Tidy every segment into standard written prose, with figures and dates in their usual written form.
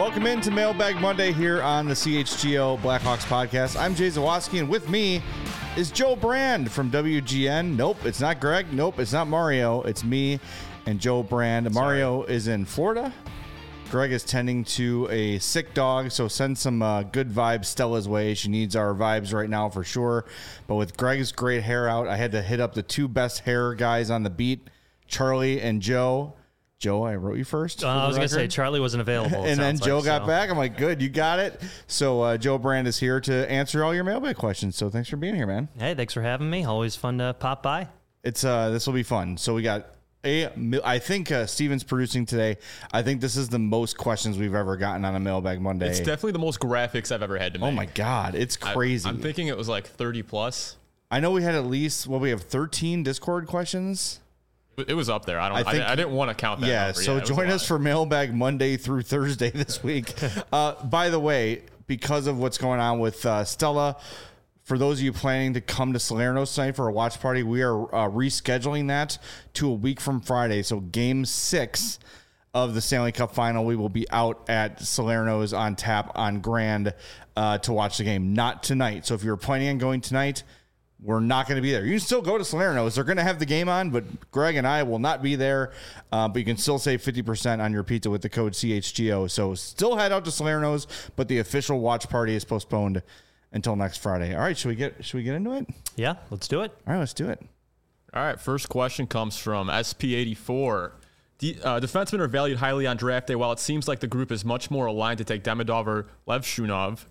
Welcome into Mailbag Monday here on the CHGO Blackhawks podcast. I'm Jay Zawaski, and with me is Joe Brand from WGN. Nope, it's not Greg. Nope, it's not Mario. It's me and Joe Brand. Mario is in Florida. Greg is tending to a sick dog, so send some good vibes Stella's way. She needs our vibes right now for sure. But with Greg's great hair out, I had to hit up the two best hair guys on the beat, Charlie and Joe. Joe, I wrote you first. I was going to say Charlie wasn't available. And then Joe got back. I'm like, good, you got it. So Joe Brand is here to answer all your mailbag questions. So thanks for being here, man. Hey, thanks for having me. Always fun to pop by. It's this will be fun. So we got I think Steven's producing today. I think this is the most questions we've ever gotten on a Mailbag Monday. It's definitely the most graphics I've ever had to make. Oh my God, it's crazy. I'm thinking it was like 30 plus. I know we had at least, we have 13 Discord questions. It was up there. I didn't want to count that. Yeah, number. so join us for Mailbag Monday through Thursday this week. By the way, because of what's going on with Stella, for those of you planning to come to Salerno's tonight for a watch party, we are rescheduling that to a week from Friday. So Game 6 of the Stanley Cup Final, we will be out at Salerno's on tap on Grand to watch the game. Not tonight. So if you're planning on going tonight, we're not going to be there. You can still go to Salerno's. They're going to have the game on, but Greg and I will not be there. But you can still save 50% on your pizza with the code CHGO. So still head out to Salerno's, but the official watch party is postponed until next Friday. All right, should we get into it? Yeah, let's do it. All right, let's do it. All right, first question comes from SP84. Defensemen are valued highly on draft day. While it seems like the group is much more aligned to take Demidov or Levshunov,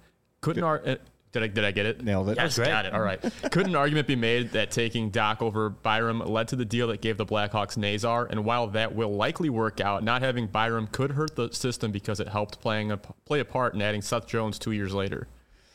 Did I get it? Nailed it. Yes, got it. All right. Could an argument be made that taking Doc over Byram led to the deal that gave the Blackhawks Nazar? And while that will likely work out, not having Byram could hurt the system because it helped play a part in adding Seth Jones 2 years later.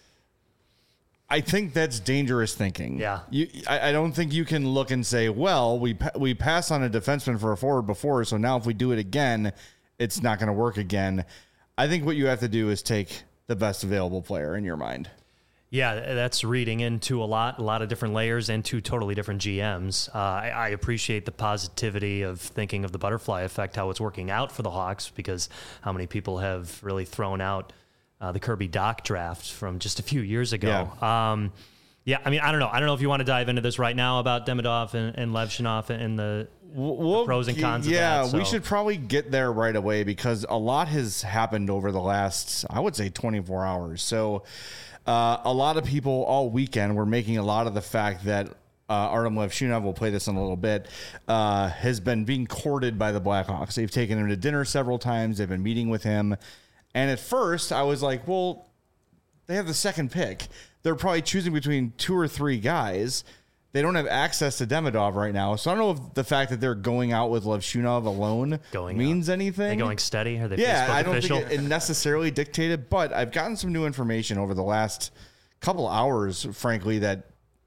I think that's dangerous thinking. Yeah. I don't think you can look and say, well, we passed on a defenseman for a forward before, so now if we do it again, it's not going to work again. I think what you have to do is take the best available player in your mind. Yeah, that's reading into a lot of different layers and two totally different GMs. I appreciate the positivity of thinking of the butterfly effect, how it's working out for the Hawks, because how many people have really thrown out the Kirby Doc draft from just a few years ago. Yeah. I mean, I don't know. I don't know if you want to dive into this right now about Demidov and Levshunov and the pros and cons of that. Yeah, we should probably get there right away because a lot has happened over the last, I would say, 24 hours. So a lot of people all weekend were making a lot of the fact that Artem Levshunov, we'll play this in a little bit, has been being courted by the Blackhawks. They've taken him to dinner several times. They've been meeting with him. And at first, I was like, well, they have the second pick. They're probably choosing between two or three guys. They don't have access to Demidov right now. So I don't know if the fact that they're going out with Levshunov alone means anything. Are they going steady? Are they Facebook I don't official? think it necessarily dictated, but I've gotten some new information over the last couple hours, frankly, that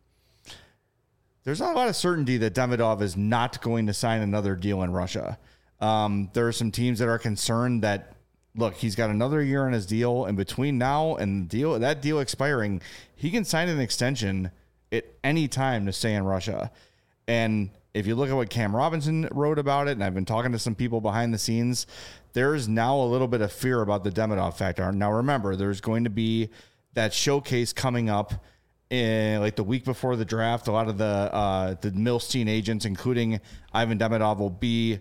there's not a lot of certainty that Demidov is not going to sign another deal in Russia. There are some teams that are concerned that, look, he's got another year on his deal, and between now and that deal expiring, he can sign an extension at any time to stay in Russia. And if you look at what Cam Robinson wrote about it, and I've been talking to some people behind the scenes, there's now a little bit of fear about the Demidov factor. Now, remember, there's going to be that showcase coming up in like the week before the draft. A lot of the Milstein agents, including Ivan Demidov, will be,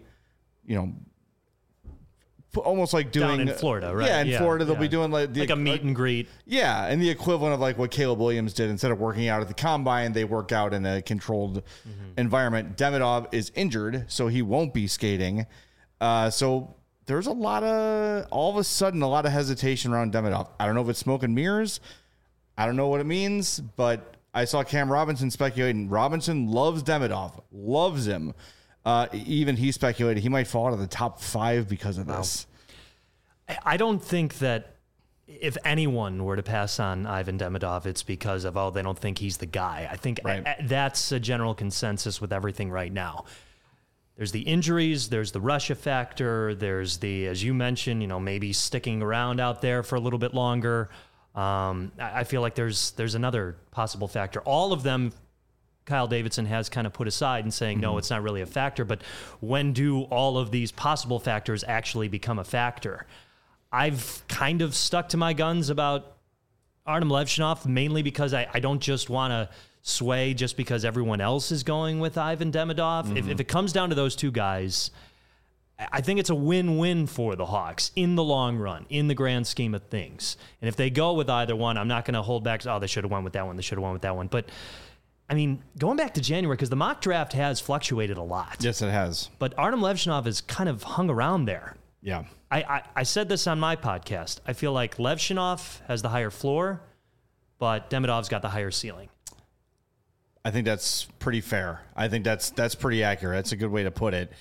almost like doing down in Florida, right? Yeah, in Florida they'll be doing like a meet and greet. Yeah, and the equivalent of like what Caleb Williams did. Instead of working out at the combine, they work out in a controlled environment. Demidov is injured, so he won't be skating. So there's all of a sudden a lot of hesitation around Demidov. I don't know if it's smoke and mirrors. I don't know what it means, but I saw Cam Robinson speculating. Robinson loves Demidov, loves him. Even he speculated he might fall out of the top 5 because of this. I don't think that if anyone were to pass on Ivan Demidov, it's because of, they don't think he's the guy. I think that's a general consensus with everything right now. There's the injuries, there's the Russia factor, there's the, as you mentioned, maybe sticking around out there for a little bit longer. I feel like there's another possible factor. All of them Kyle Davidson has kind of put aside and saying, no, it's not really a factor. But when do all of these possible factors actually become a factor? I've kind of stuck to my guns about Artem Levshunov, mainly because I don't just want to sway just because everyone else is going with Ivan Demidov. If it comes down to those two guys, I think it's a win-win for the Hawks in the long run, in the grand scheme of things. And if they go with either one, I'm not going to hold back. They should have went with that one. They should have went with that one. But, I mean, going back to January, because the mock draft has fluctuated a lot. Yes, it has. But Artem Levshunov has kind of hung around there. Yeah. I said this on my podcast. I feel like Levshunov has the higher floor, but Demidov's got the higher ceiling. I think that's pretty fair. I think that's pretty accurate. That's a good way to put it.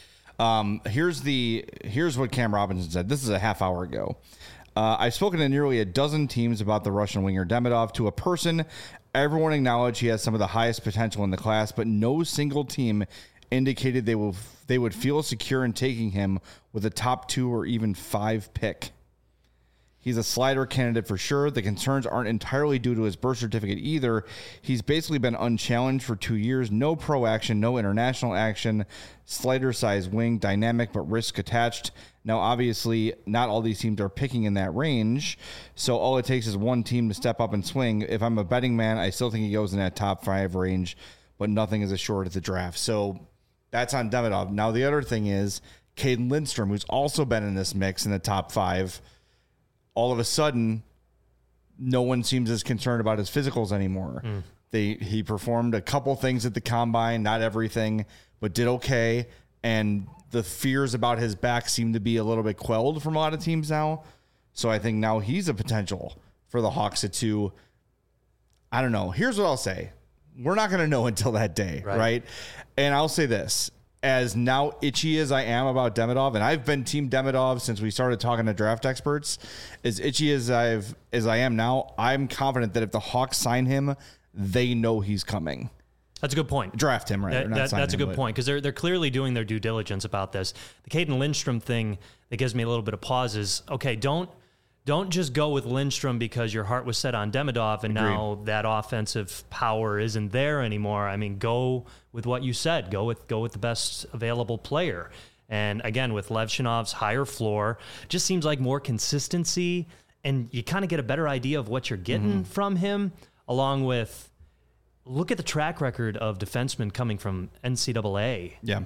Here's what Cam Robinson said. This is a half hour ago. I've spoken to nearly a dozen teams about the Russian winger Demidov. To a person, everyone acknowledged he has some of the highest potential in the class, but no single team indicated they would feel secure in taking him with a top 2 or even 5 pick. He's a slider candidate for sure. The concerns aren't entirely due to his birth certificate either. He's basically been unchallenged for 2 years. No pro action, no international action. Slider size wing, dynamic but risk attached. Now, obviously, not all these teams are picking in that range. So all it takes is one team to step up and swing. If I'm a betting man, I still think he goes in that top 5 range, but nothing is assured at the draft. So that's on Demidov. Now, the other thing is Caden Lindstrom, who's also been in this mix in the top 5. All of a sudden, no one seems as concerned about his physicals anymore. He performed a couple things at the combine, not everything, but did okay. And the fears about his back seem to be a little bit quelled from a lot of teams now. So I think now he's a potential for the Hawks to, I don't know. Here's what I'll say. We're not going to know until that day, right? And I'll say this. As now itchy as I am about Demidov, and I've been team Demidov since we started talking to draft experts, as itchy as I am now, I'm confident that if the Hawks sign him, they know he's coming. That's a good point. Draft him, right? That's a good point, because they're clearly doing their due diligence about this. The Caden Lindstrom thing that gives me a little bit of pause is, okay, don't just go with Lindstrom because your heart was set on Demidov and now that offensive power isn't there anymore. I mean, go with what you said. Go with the best available player. And again, with Levshunov's higher floor, just seems like more consistency, and you kind of get a better idea of what you're getting from him, along with look at the track record of defensemen coming from NCAA. Yeah.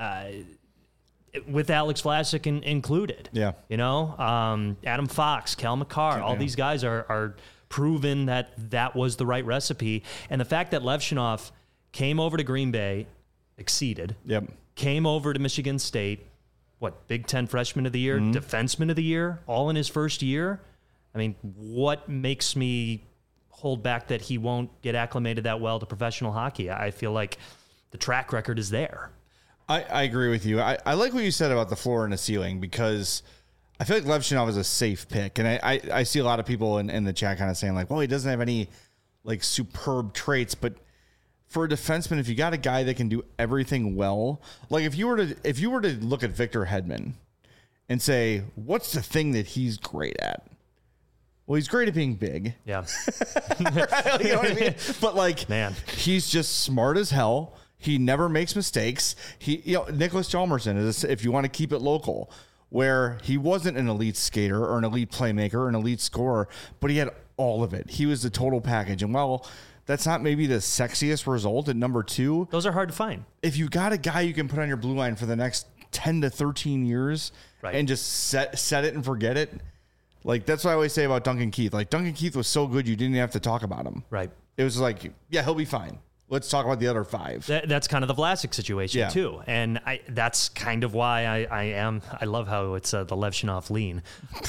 With Alex Vlasic included. Yeah. You know, Adam Fox, Cal McCarr, all these guys are proven that was the right recipe. And the fact that Levshunov came over to Green Bay, exceeded, came over to Michigan State, Big Ten Freshman of the Year, Defenseman of the Year, all in his first year. I mean, what makes me hold back that he won't get acclimated that well to professional hockey? I feel like the track record is there. I agree with you. I like what you said about the floor and the ceiling, because I feel like Levshunov is a safe pick. And I see a lot of people in the chat kind of saying like, well, he doesn't have any like superb traits, but for a defenseman, if you got a guy that can do everything well, like if you were to look at Victor Hedman and say, what's the thing that he's great at? Well, he's great at being big. Yeah. You know what I mean? But like, man, he's just smart as hell. He never makes mistakes. Nicholas Hjalmarsson is, if you want to keep it local, where he wasn't an elite skater or an elite playmaker or an elite scorer, but he had all of it. He was the total package. And while that's not maybe the sexiest result at number 2, those are hard to find. If you got a guy you can put on your blue line for the next 10 to 13 years and just set it and forget it, like that's what I always say about Duncan Keith. Like Duncan Keith was so good you didn't even have to talk about him. Right. It was like, yeah, he'll be fine. Let's talk about the other 5. That's kind of the Vlasic situation too, and that's kind of why I love how it's the Levshunov lean.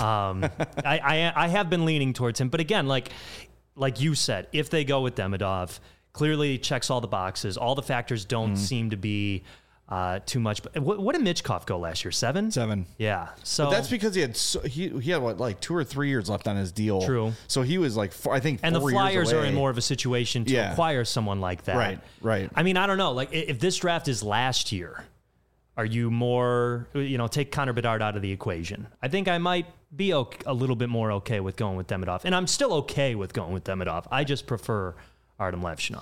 I have been leaning towards him, but again, like you said, if they go with Demidov, clearly checks all the boxes. All the factors don't seem to be too much. But what did Michkov go last year? 7? 7. Yeah. So but that's because he had like 2 or 3 years left on his deal. True. So he was like, I think, 4 and the Flyers years away. are in more of a situation to acquire someone like that. Right. I mean, I don't know. Like if this draft is last year, are you more, take Connor Bedard out of the equation? I think I might be a little bit more okay with going with Demidov. And I'm still okay with going with Demidov. I just prefer Artem Levshunov.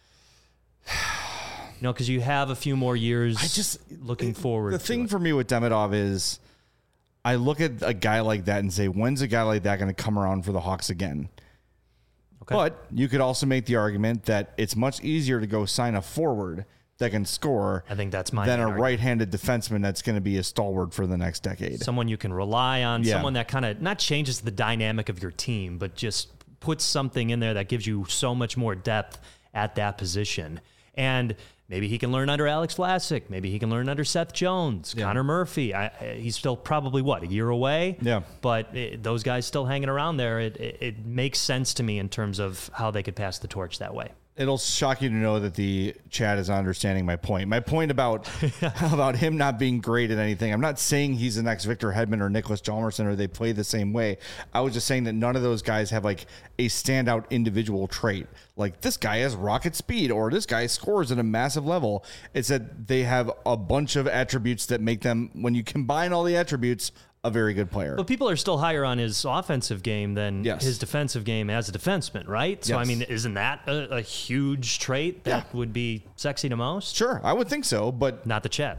Because you have a few more years looking forward. The thing for me with Demidov is I look at a guy like that and say, when's a guy like that going to come around for the Hawks again? Okay. But you could also make the argument that it's much easier to go sign a forward that can score. I think that's my than a argument. right-handed defenseman that's going to be a stalwart for the next decade. Someone you can rely on, someone that kind of not changes the dynamic of your team, but just puts something in there that gives you so much more depth at that position. And maybe he can learn under Alex Vlasic. Maybe he can learn under Seth Jones, Connor Murphy. He's still probably, a year away? Yeah. But those guys still hanging around there, it makes sense to me in terms of how they could pass the torch that way. It'll shock you to know that the chat is understanding my point. My point about him not being great at anything. I'm not saying he's the next Victor Hedman or Nicholas Hjalmarsson or they play the same way. I was just saying that none of those guys have like a standout individual trait. Like this guy has rocket speed or this guy scores at a massive level. It's that they have a bunch of attributes that make them, when you combine all the attributes, a very good player. But people are still higher on his offensive game than his defensive game as a defenseman, right? So, I mean, isn't that a huge trait that would be sexy to most? Sure, I would think so, but... Not the chat.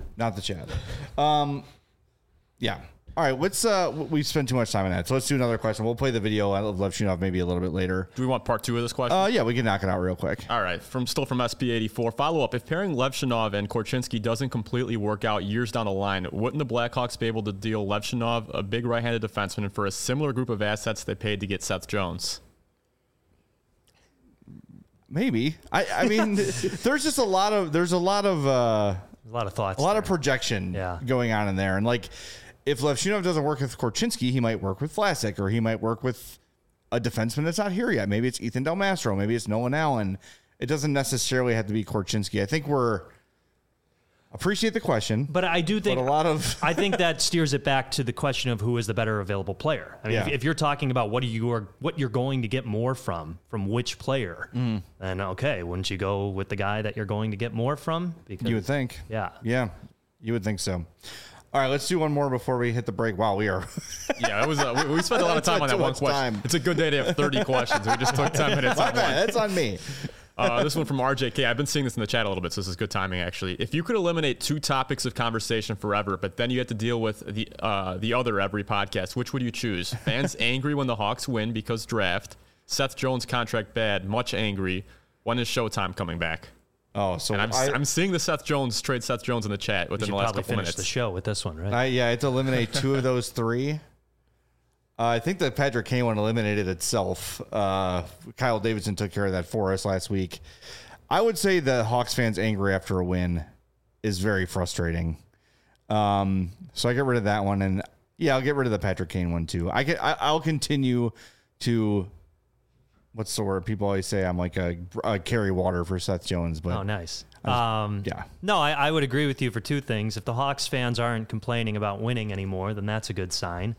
Yeah. All right, we've spent too much time on that, so let's do another question. We'll play the video of Levshunov maybe a little bit later. Do we want part 2 of this question? Yeah, we can knock it out real quick. All right, from SP84. Follow-up, if pairing Levshunov and Korchinski doesn't completely work out years down the line, wouldn't the Blackhawks be able to deal Levshunov, a big right-handed defenseman, for a similar group of assets they paid to get Seth Jones? Maybe. I mean, there's just a lot of thoughts, a lot of projection going on in there, and like, if Levshunov doesn't work with Korchinski, he might work with Vlasic, or he might work with a defenseman that's not here yet. Maybe it's Ethan Del Mastro. Maybe it's Nolan Allen. It doesn't necessarily have to be Korchinski. I think appreciate the question, but I do think I think that steers it back to the question of who is the better available player. I mean, if you're talking about what you're going to get more from which player, then okay, wouldn't you go with the guy that you're going to get more from? Because you would think, yeah, you would think so. All right, let's do one more before we hit the break. Wow, we are. Yeah, it was. We spent a lot of time on that one question. It's a good day to have 30 questions. We just took 10 minutes. My bad. That's on me. This one from RJK. I've been seeing this in the chat a little bit, so this is good timing, actually. If you could eliminate 2 topics of conversation forever, but then you had to deal with the other every podcast, which would you choose? Fans angry when the Hawks win because draft. Seth Jones contract bad, much angry. When is Showtime coming back? Oh, so and I'm seeing the Seth Jones in the chat within the last couple minutes. The show with this one, right? I had to eliminate 2 of those 3. I think the Patrick Kane one eliminated itself. Kyle Davidson took care of that for us last week. I would say the Hawks fans angry after a win is very frustrating. So I get rid of that one, and I'll get rid of the Patrick Kane one too. I'll continue to. What's the word? People always say I'm like a carry water for Seth Jones. But nice. No, I would agree with you for 2 things. If the Hawks fans aren't complaining about winning anymore, then that's a good sign.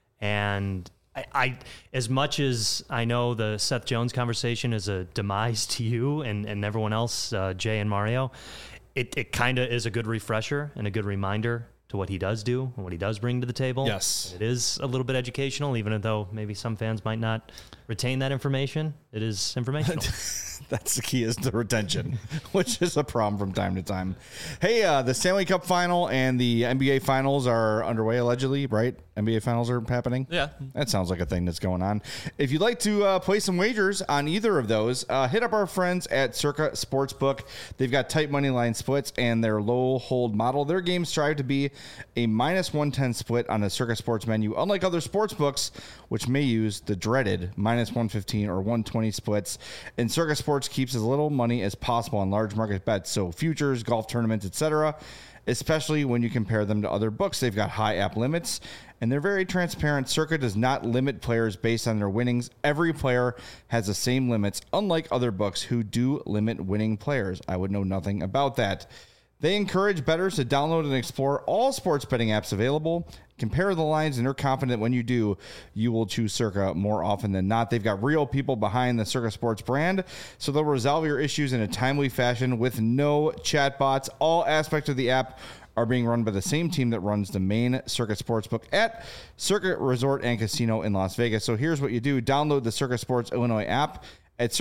And I as much as I know the Seth Jones conversation is a demise to you and everyone else, Jay and Mario, it kind of is a good refresher and a good reminder to what he does do and what he does bring to the table. Yes. It is a little bit educational, even though maybe some fans might not retain that information. It is informational. That's the key, is the retention, which is a problem from time to time. Hey, the Stanley Cup final and the NBA finals are underway, allegedly, right? NBA finals are happening? Yeah. That sounds like a thing that's going on. If you'd like to play some wagers on either of those, hit up our friends at Circa Sportsbook. They've got tight money line splits and their low hold model. Their games strive to be a -110 split on the Circa Sports menu, unlike other sports books, which may use the dreaded -115 or 120 splits. And Circa Sports keeps as little money as possible on large market bets, so futures, golf tournaments, etc., especially when you compare them to other books. They've got high app limits, and they're very transparent. Circa does not limit players based on their winnings. Every player has the same limits, unlike other books who do limit winning players. I would know nothing about that. They encourage bettors to download and explore all sports betting apps available. Compare the lines, and they're confident when you do, you will choose Circa more often than not. They've got real people behind the Circa Sports brand, so they'll resolve your issues in a timely fashion with no chatbots. All aspects of the app are being run by the same team that runs the main Circa Sportsbook at Circa Resort and Casino in Las Vegas. So here's what you do. Download the Circa Sports Illinois app at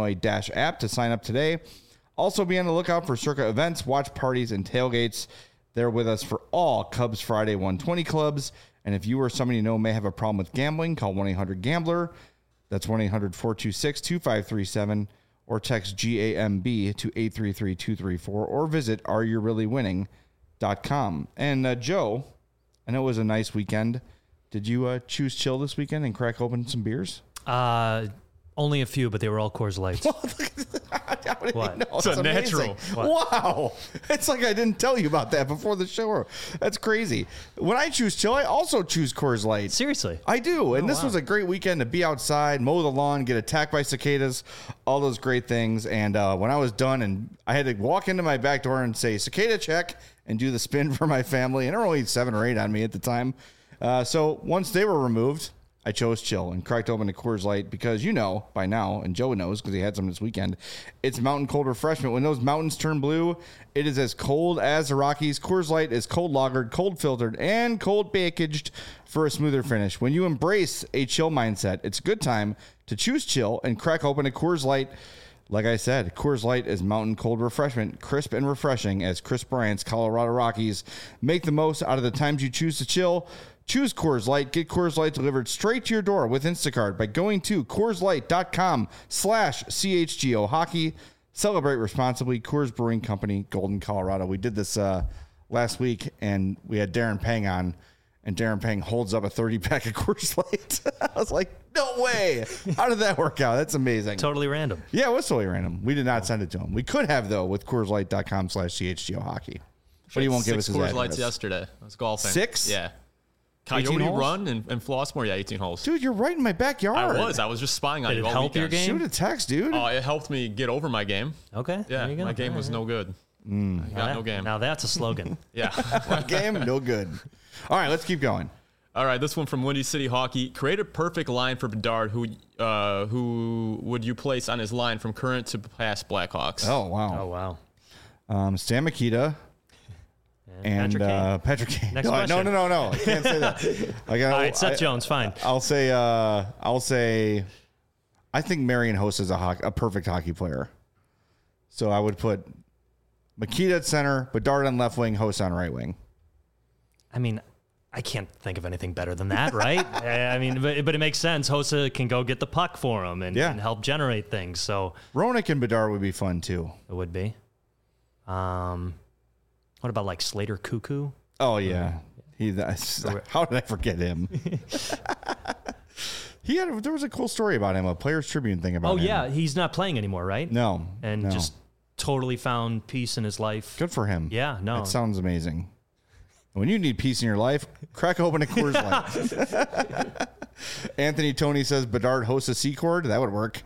circasports.com/Illinois-app to sign up today. Also be on the lookout for Circa events, watch parties, and tailgates. They're with us for all Cubs Friday 120 clubs. And if you or somebody you know may have a problem with gambling, call 1-800-GAMBLER. That's 1-800-426-2537. Or text GAMB to 833-234. Or visit areyoureallywinning.com. And Joe, I know it was a nice weekend. Did you choose chill this weekend and crack open some beers? Only a few, but they were all Coors Lights. What? It's a natural. Wow. It's like I didn't tell you about that before the show. That's crazy. When I choose chill, I also choose Coors Light. Seriously? I do. And this was a great weekend to be outside, mow the lawn, get attacked by cicadas, all those great things. And when I was done, and I had to walk into my back door and say, cicada check, and do the spin for my family. And there were only 7 or 8 on me at the time. So once they were removed, I chose chill and cracked open a Coors Light because you know by now, and Joe knows because he had some this weekend, it's mountain cold refreshment. When those mountains turn blue, it is as cold as the Rockies. Coors Light is cold lagered, cold filtered, and cold packaged for a smoother finish. When you embrace a chill mindset, it's a good time to choose chill and crack open a Coors Light. Like I said, Coors Light is mountain cold refreshment, crisp and refreshing as Chris Bryant's Colorado Rockies make the most out of the times you choose to chill. Choose Coors Light. Get Coors Light delivered straight to your door with Instacart by going to CoorsLight.com/CHGO Hockey. Celebrate responsibly. Coors Brewing Company, Golden, Colorado. We did this last week, and we had Darren Pang on, and Darren Pang holds up a 30-pack of Coors Light. I was like, no way. How did that work out? That's amazing. Totally random. Yeah, it was totally random. We did not send it to him. We could have, though, with CoorsLight.com/CHGO Hockey. But he won't give us his Coors address. Lights yesterday. I was golfing. 6? Yeah. Coyote holes? Run and Flossmoor, yeah, 18 holes. Dude, you're right in my backyard. I was just spying on Did you it all help your weekend. game? Shoot a text, dude. It helped me get over my game. Okay. Yeah, There you go. my game was no good. I got no game. Now that's a slogan. Yeah. Game, no good. All right, let's keep going. All right, this one from Windy City Hockey. Create a perfect line for Bedard. Who would you place on his line from current to past Blackhawks? Oh, wow. Oh, wow. Stan Mikita and Patrick Kane. Next No, question. no. I can't say that. I got. All right, Seth Jones, fine. I'll say. I think Marian Hossa is a perfect hockey player. So I would put Mikita at center, Bedard on left wing, Hossa on right wing. I mean, I can't think of anything better than that, right? I mean, but it makes sense. Hossa can go get the puck for him and help generate things. So Roenick and Bedard would be fun too. it would be. What about like Slater Cuckoo? Oh yeah, how did I forget him? There was a cool story about him, a Players Tribune thing about him. Oh yeah, he's not playing anymore, right? No, And just totally found peace in his life. good for him. Yeah, no. That sounds amazing. When you need peace in your life, crack open a Coors Light. Anthony Tony says Bedard hosts a C-chord. That would work.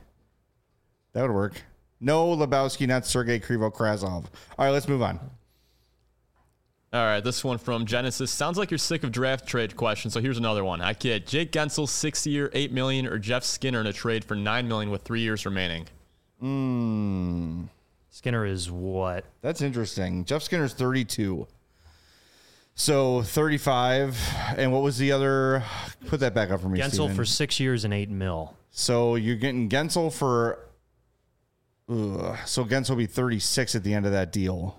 No Lebowski, not Sergei Krivo-Krasov. All right, let's move on. All right, this one from Genesis. Sounds like you're sick of draft trade questions, so here's another one. I kid. Jake Gensel, 6-year, $8 million, or Jeff Skinner in a trade for $9 million with 3 years remaining? Skinner is what? That's interesting. Jeff Skinner's 32. So 35. And what was the other? Put that back up for me, Gensel Steven. for 6 years and $8 million. So you're getting Gensel for... so Gensel will be 36 at the end of that deal.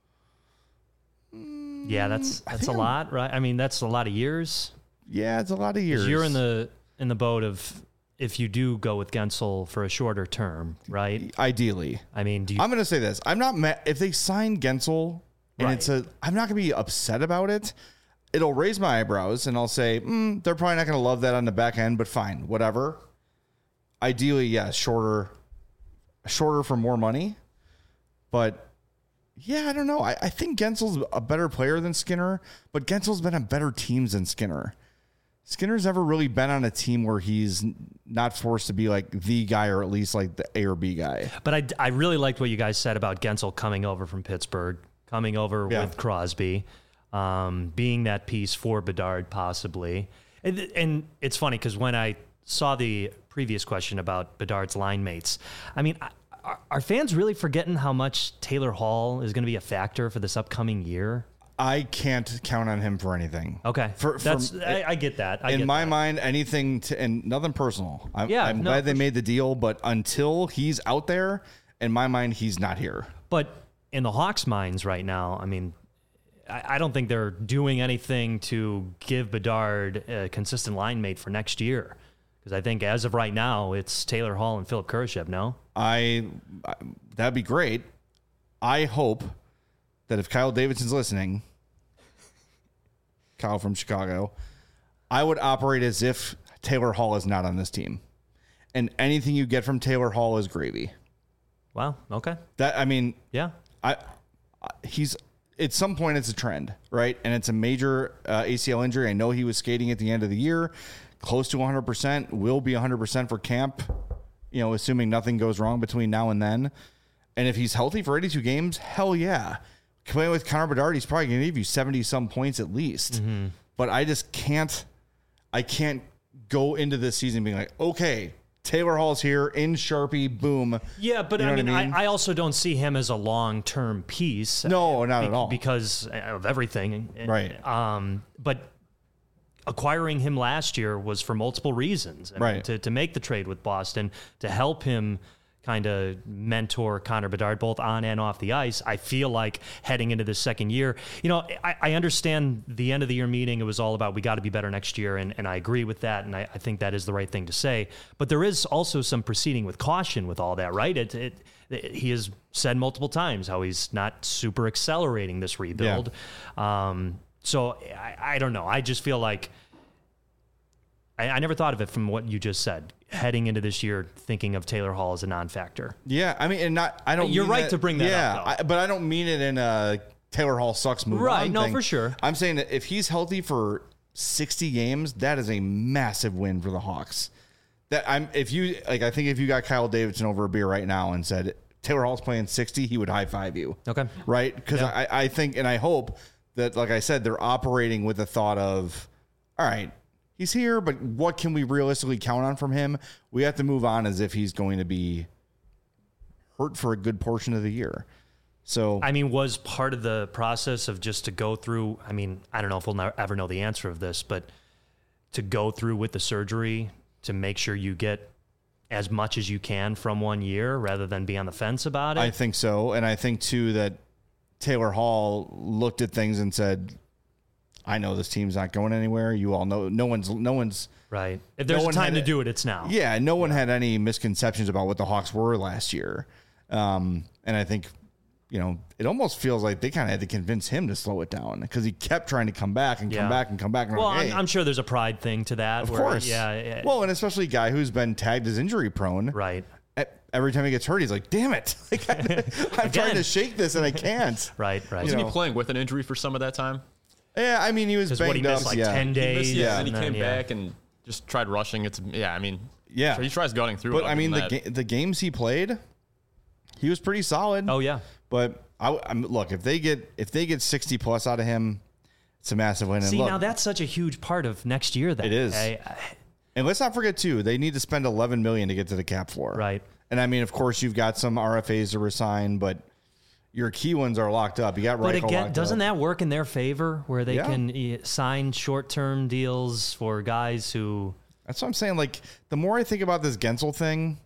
Yeah, that's a lot, right? I mean, that's a lot of years. Yeah, it's a lot of years. You're in the boat of if you do go with Gensel for a shorter term, right? Ideally. I mean, I'm going to say this. I'm not mad if they sign Gensel and I'm not going to be upset about it. It'll raise my eyebrows and I'll say, they're probably not going to love that on the back end, but fine, whatever. Ideally, yeah, shorter for more money. But yeah, I don't know. I think Gensel's a better player than Skinner, but Gensel's been on better teams than Skinner. Skinner's never really been on a team where he's not forced to be like the guy or at least like the A or B guy. But I really liked what you guys said about Gensel coming over from Pittsburgh, coming over with Crosby, being that piece for Bedard possibly. And it's funny because when I saw the previous question about Bedard's line mates, I mean, are fans really forgetting how much Taylor Hall is going to be a factor for this upcoming year? I can't count on him for anything. Okay. I get that. In my mind, anything and nothing personal. I'm glad they made the deal, but until he's out there, in my mind, he's not here. But in the Hawks' minds right now, I mean, I don't think they're doing anything to give Bedard a consistent line mate for next year. Because I think as of right now, it's Taylor Hall and Philip Kurashev, no? That'd be great. I hope that if Kyle Davidson's listening, Kyle from Chicago, I would operate as if Taylor Hall is not on this team. And anything you get from Taylor Hall is gravy. Wow. Okay. Yeah. He's at some point it's a trend, right? And it's a major ACL injury. I know he was skating at the end of the year, close to 100%, will be 100% for camp, assuming nothing goes wrong between now and then. And if he's healthy for 82 games, hell yeah. Playing with Connor Bedard, he's probably going to give you 70-some points at least. Mm-hmm. But I just can't go into this season being like, okay, Taylor Hall's here in Sharpie, boom. Yeah, but I also don't see him as a long-term piece. No, not at all. Because of everything. Right. But acquiring him last year was for multiple reasons. Right. To make the trade with Boston, to help him kind of mentor Connor Bedard both on and off the ice. I feel like heading into the second year, I understand the end of the year meeting. It was all about we got to be better next year, and I agree with that, and I think that is the right thing to say. But there is also some proceeding with caution with all that, right? He has said multiple times how he's not super accelerating this rebuild. Yeah. So I don't know. I just feel like I never thought of it from what you just said. Heading into this year, thinking of Taylor Hall as a non-factor. Yeah, I don't. You're right to bring that up, though. But I don't mean it in a Taylor Hall sucks move. Right? No, thing. for sure. I'm saying that if he's healthy for 60 games, that is a massive win for the Hawks. I think if you got Kyle Davidson over a beer right now and said Taylor Hall's playing 60, he would high five you. Okay. Right? Because I think and I hope that, like I said, they're operating with the thought of, all right, he's here, but what can we realistically count on from him? We have to move on as if he's going to be hurt for a good portion of the year. So, was part of the process of just to go through, I don't know if we'll ever know the answer of this, but to go through with the surgery to make sure you get as much as you can from 1 year rather than be on the fence about it? I think so. And I think, too, that Taylor Hall looked at things and said, I know this team's not going anywhere. You all know no one's right. If there's a time to do it, it's now. Yeah, no one had any misconceptions about what the Hawks were last year. And I think, it almost feels like they kind of had to convince him to slow it down because he kept trying to come back and come back and come back. And well, I'm sure there's a pride thing to that. Of course. Yeah. Well, and especially a guy who's been tagged as injury prone. Right. Every time he gets hurt, he's like, damn it. I'm trying to shake this and I can't. Right. Wasn't he playing with an injury for some of that time? Yeah, he was banged he missed up. 10 days. And he came back and just tried rushing. So he tries gunning through it. But the games he played, he was pretty solid. Oh yeah. But look, if they get 60 plus out of him, it's a massive win. See, now that's such a huge part of next year. Then it is. And let's not forget too, they need to spend $11 million to get to the cap floor. Right. And of course, you've got some RFAs to resign, but your key ones are locked up. You got Reichel. But again, doesn't that work in their favor where they can sign short-term deals for guys who... That's what I'm saying. Like, the more I think about this Guentzel thing,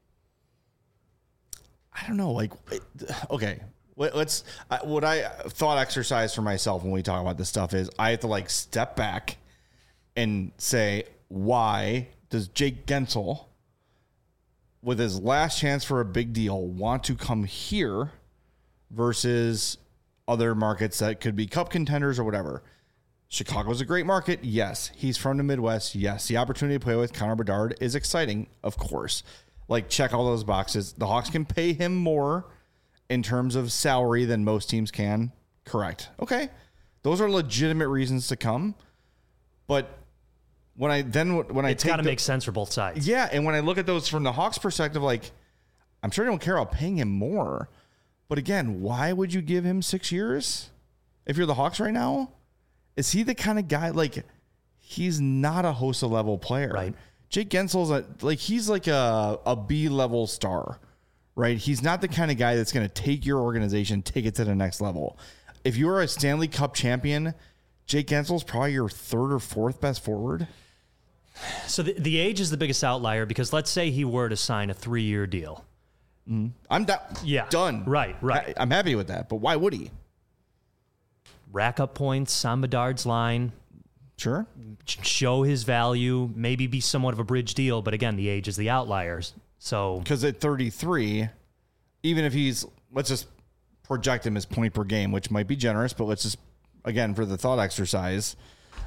I don't know. Like, okay, let's... what I thought exercise for myself when we talk about this stuff is I have to, step back and say, why does Jake Guentzel, with his last chance for a big deal, want to come here versus other markets that could be cup contenders or whatever? Chicago's a great market. Yes. He's from the Midwest. Yes. The opportunity to play with Connor Bedard is exciting, of course. Check all those boxes. The Hawks can pay him more in terms of salary than most teams can. Correct. Okay. Those are legitimate reasons to come. But when I it's got to make sense for both sides. Yeah. And when I look at those from the Hawks perspective, I'm sure they don't care about paying him more. But again, why would you give him 6 years if you're the Hawks right now? Is he the kind of guy, he's not a Hossa level player. Right. Jake Guentzel's he's like a B level star, right? He's not the kind of guy that's going to take your organization, take it to the next level. If you're a Stanley Cup champion, Jake Guentzel's probably your third or fourth best forward. So the age is the biggest outlier because let's say he were to sign a 3-year deal. I'm done. Yeah. Done. Right. I'm happy with that. But why would he? rack up points on Bedard's line. Sure. Show his value, maybe be somewhat of a bridge deal, but again, the age is the outliers. So because at 33, even if let's just project him as point per game, which might be generous, but let's just, again, for the thought exercise,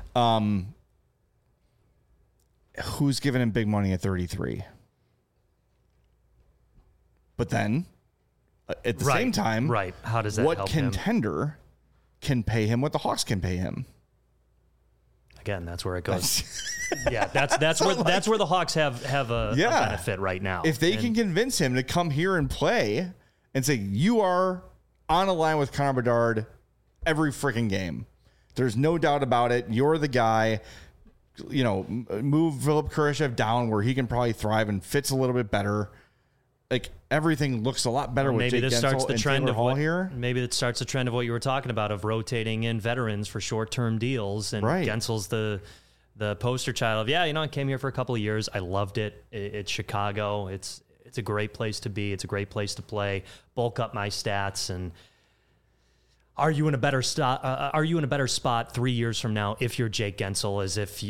who's giving him big money at 33? But then at the same time, how does that what help contender can pay him what the Hawks can pay him? Again, that's where it goes. Yeah, that's where the Hawks have a benefit right now. If they can convince him to come here and play and say, you are on a line with Connor Bedard every freaking game. There's no doubt about it. You're the guy. Move Philip Kurashev down where he can probably thrive and fits a little bit better. Like everything looks a lot better with Jake Guentzel and Taylor Hall here. Maybe it starts the trend of what you were talking about of rotating in veterans for short-term deals. And Guentzel's the poster child of, I came here for a couple of years. I loved it. It's Chicago. It's a great place to be. It's a great place to play. Bulk up my stats. And are you in a better spot 3 years from now if you're Jake Guentzel as if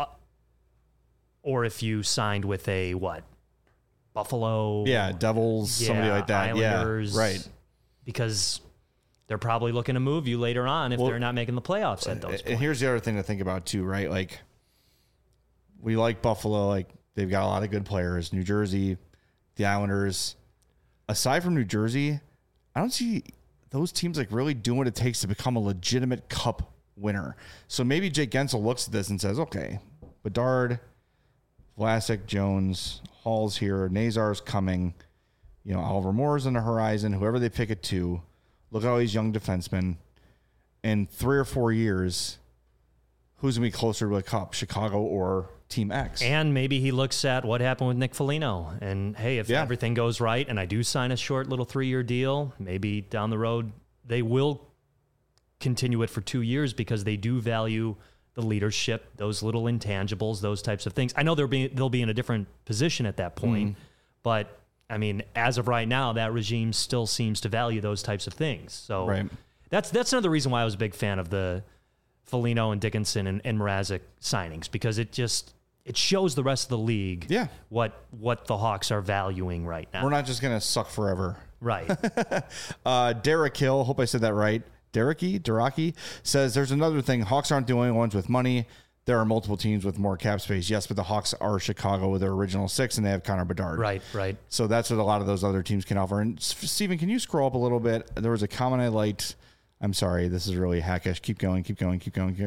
you signed with a what? Buffalo, Devils, somebody like that. Islanders, right? Because they're probably looking to move you later on if they're not making the playoffs at those points. And here's the other thing to think about too, right? Like we like Buffalo, like they've got a lot of good players. New Jersey, the Islanders. Aside from New Jersey, I don't see those teams like really doing what it takes to become a legitimate cup winner. So maybe Jake Guentzel looks at this and says, okay, Bedard, Vlasic, Jones, Hall's here, Nazar's coming, Oliver Moore's on the horizon, whoever they pick at 2. Look at all these young defensemen. In 3 or 4 years, who's going to be closer to a cup, Chicago or Team X? And maybe he looks at what happened with Nick Foligno. And, hey, if everything goes right and I do sign a short little 3-year deal, maybe down the road they will continue it for 2 years because they do value the leadership, those little intangibles, those types of things. I know they'll be in a different position at that point, but I mean, as of right now, that regime still seems to value those types of things. So that's another reason why I was a big fan of the Foligno and Dickinson and Mrazek signings, because it shows the rest of the league what the Hawks are valuing right now. We're not just going to suck forever. Right. Derek Hill, hope I said that right. Deraki says there's another thing. Hawks aren't the only ones with money. There are multiple teams with more cap space. Yes, but the Hawks are Chicago with their original 6, and they have Connor Bedard. Right. So that's what a lot of those other teams can offer. And Steven, can you scroll up a little bit? There was a comment I liked. I'm sorry, this is really hackish. Keep going. Keep going.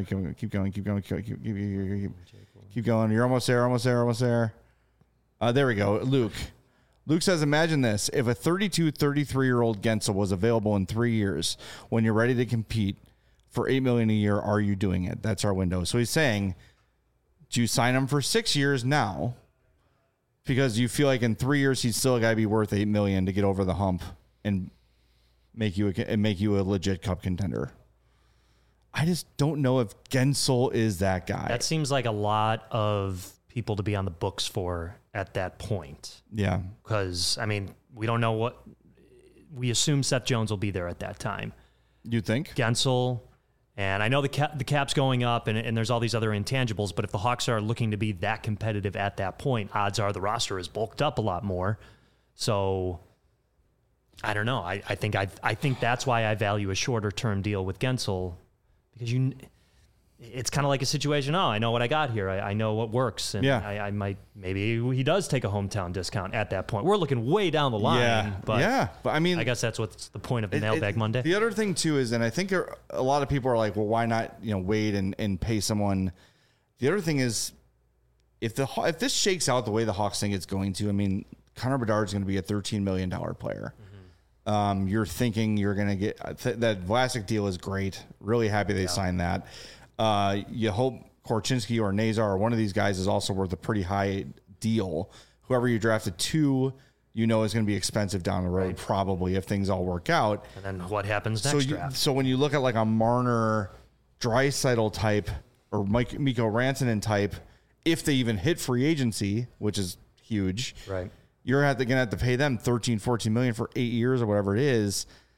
You're almost there. There we go. Luke says, imagine this. If a 32, 33-year-old Guentzel was available in 3 years, when you're ready to compete for $8 million a year, are you doing it? That's our window. So he's saying, do you sign him for 6 years now? Because you feel like in 3 years, he's still got to be worth $8 million to get over the hump and make you a legit cup contender. I just don't know if Guentzel is that guy. That seems like a lot of people to be on the books for at that point. Yeah. Because, I mean, we don't know what... We assume Seth Jones will be there at that time. You think? Guentzel, and I know the cap's going up and there's all these other intangibles, but if the Hawks are looking to be that competitive at that point, odds are the roster is bulked up a lot more. So, I don't know. I think that's why I value a shorter-term deal with Guentzel, because it's kind of like a situation. I know what I got here. I know what works. And I might, maybe he does take a hometown discount at that point. We're looking way down the line. But I mean, I guess that's what's the point of the Mailbag Monday. The other thing too is, and I think a lot of people are like, well, why not, wait and pay someone? The other thing is, if this shakes out the way the Hawks think it's going to, I mean, Connor Bedard is going to be a $13 million player. Mm-hmm. You're thinking you're going to get that Vlasic deal is great. Really happy they signed that. You hope Korchinski or Nazar or one of these guys is also worth a pretty high deal. Whoever you drafted 2, is going to be expensive down the road, probably, if things all work out. And then what happens next draft? So when you look at like a Marner, Draisaitl type or Mikko Rantanen type, if they even hit free agency, which is huge, right? You're going to have to pay them $13, $14 million for 8 years or whatever it is.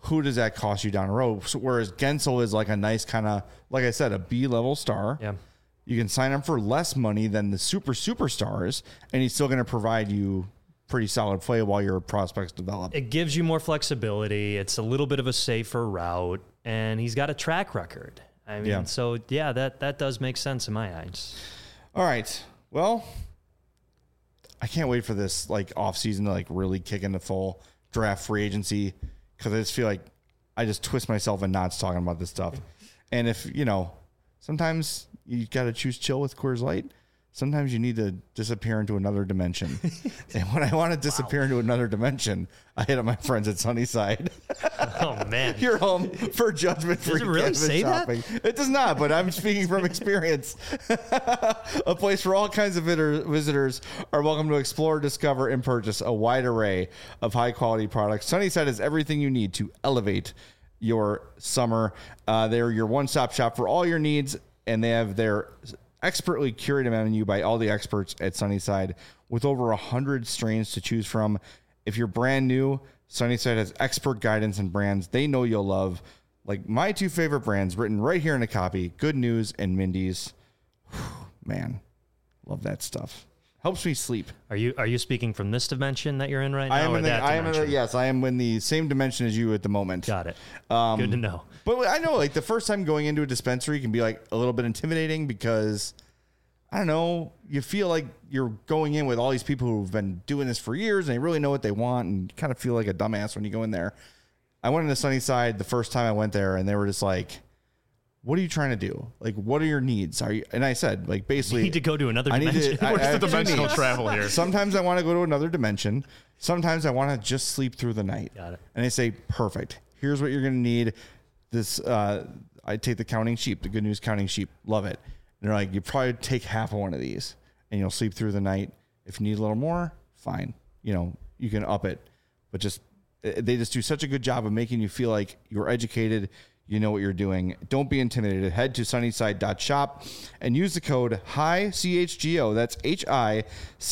who does that cost you down the road? So, whereas Gensel is like a nice kind of, like I said, a B-level star. Yeah. You can sign him for less money than the superstars, and he's still going to provide you pretty solid play while your prospects develop. It gives you more flexibility. It's a little bit of a safer route, and he's got a track record. I mean, so yeah, that does make sense in my eyes. All right. Well, I can't wait for this like off season to like really kick into full draft free agency, because I just feel like I just twist myself in knots talking about this stuff. And if, sometimes you got to choose chill with Coors Light. Sometimes you need to disappear into another dimension. And when I want to disappear into another dimension, I hit up my friends at Sunnyside. Oh, man. You're home for judgment-free Does it really say shopping. that? It does not, but I'm speaking from experience. A place where all kinds of visitors are welcome to explore, discover, and purchase a wide array of high-quality products. Sunnyside has everything you need to elevate your summer. They're your one-stop shop for all your needs, and they have their expertly curated menu by all the experts at Sunnyside with over 100 strains to choose from. If you're brand new, Sunnyside has expert guidance and brands they know you'll love. Like my two favorite brands written right here in a copy, Good News and Mindy's. Man, love that stuff. Helps me sleep. Are you speaking from this dimension that you're in right now? Yes, I am in the same dimension as you at the moment. Got it. Good to know. But I know like the first time going into a dispensary can be like a little bit intimidating because I don't know, you feel like you're going in with all these people who've been doing this for years and they really know what they want, and you kind of feel like a dumbass when you go in there. I went into Sunnyside the first time I went there and they were just like, what are you trying to do? Like, what are your needs? And I said, like, basically, you need to go to another dimension. What's the dimensional travel here? Sometimes I want to go to another dimension. Sometimes I want to just sleep through the night. Got it. And they say, perfect. Here's what you're going to need. This, I take the counting sheep, the Good News counting sheep. Love it. And they're like, you probably take half of one of these and you'll sleep through the night. If you need a little more, fine. You can up it. But they just do such a good job of making you feel like you're educated. You know what you're doing. Don't be intimidated. Head to sunnyside.shop and use the code HICHGO. That's HICHGO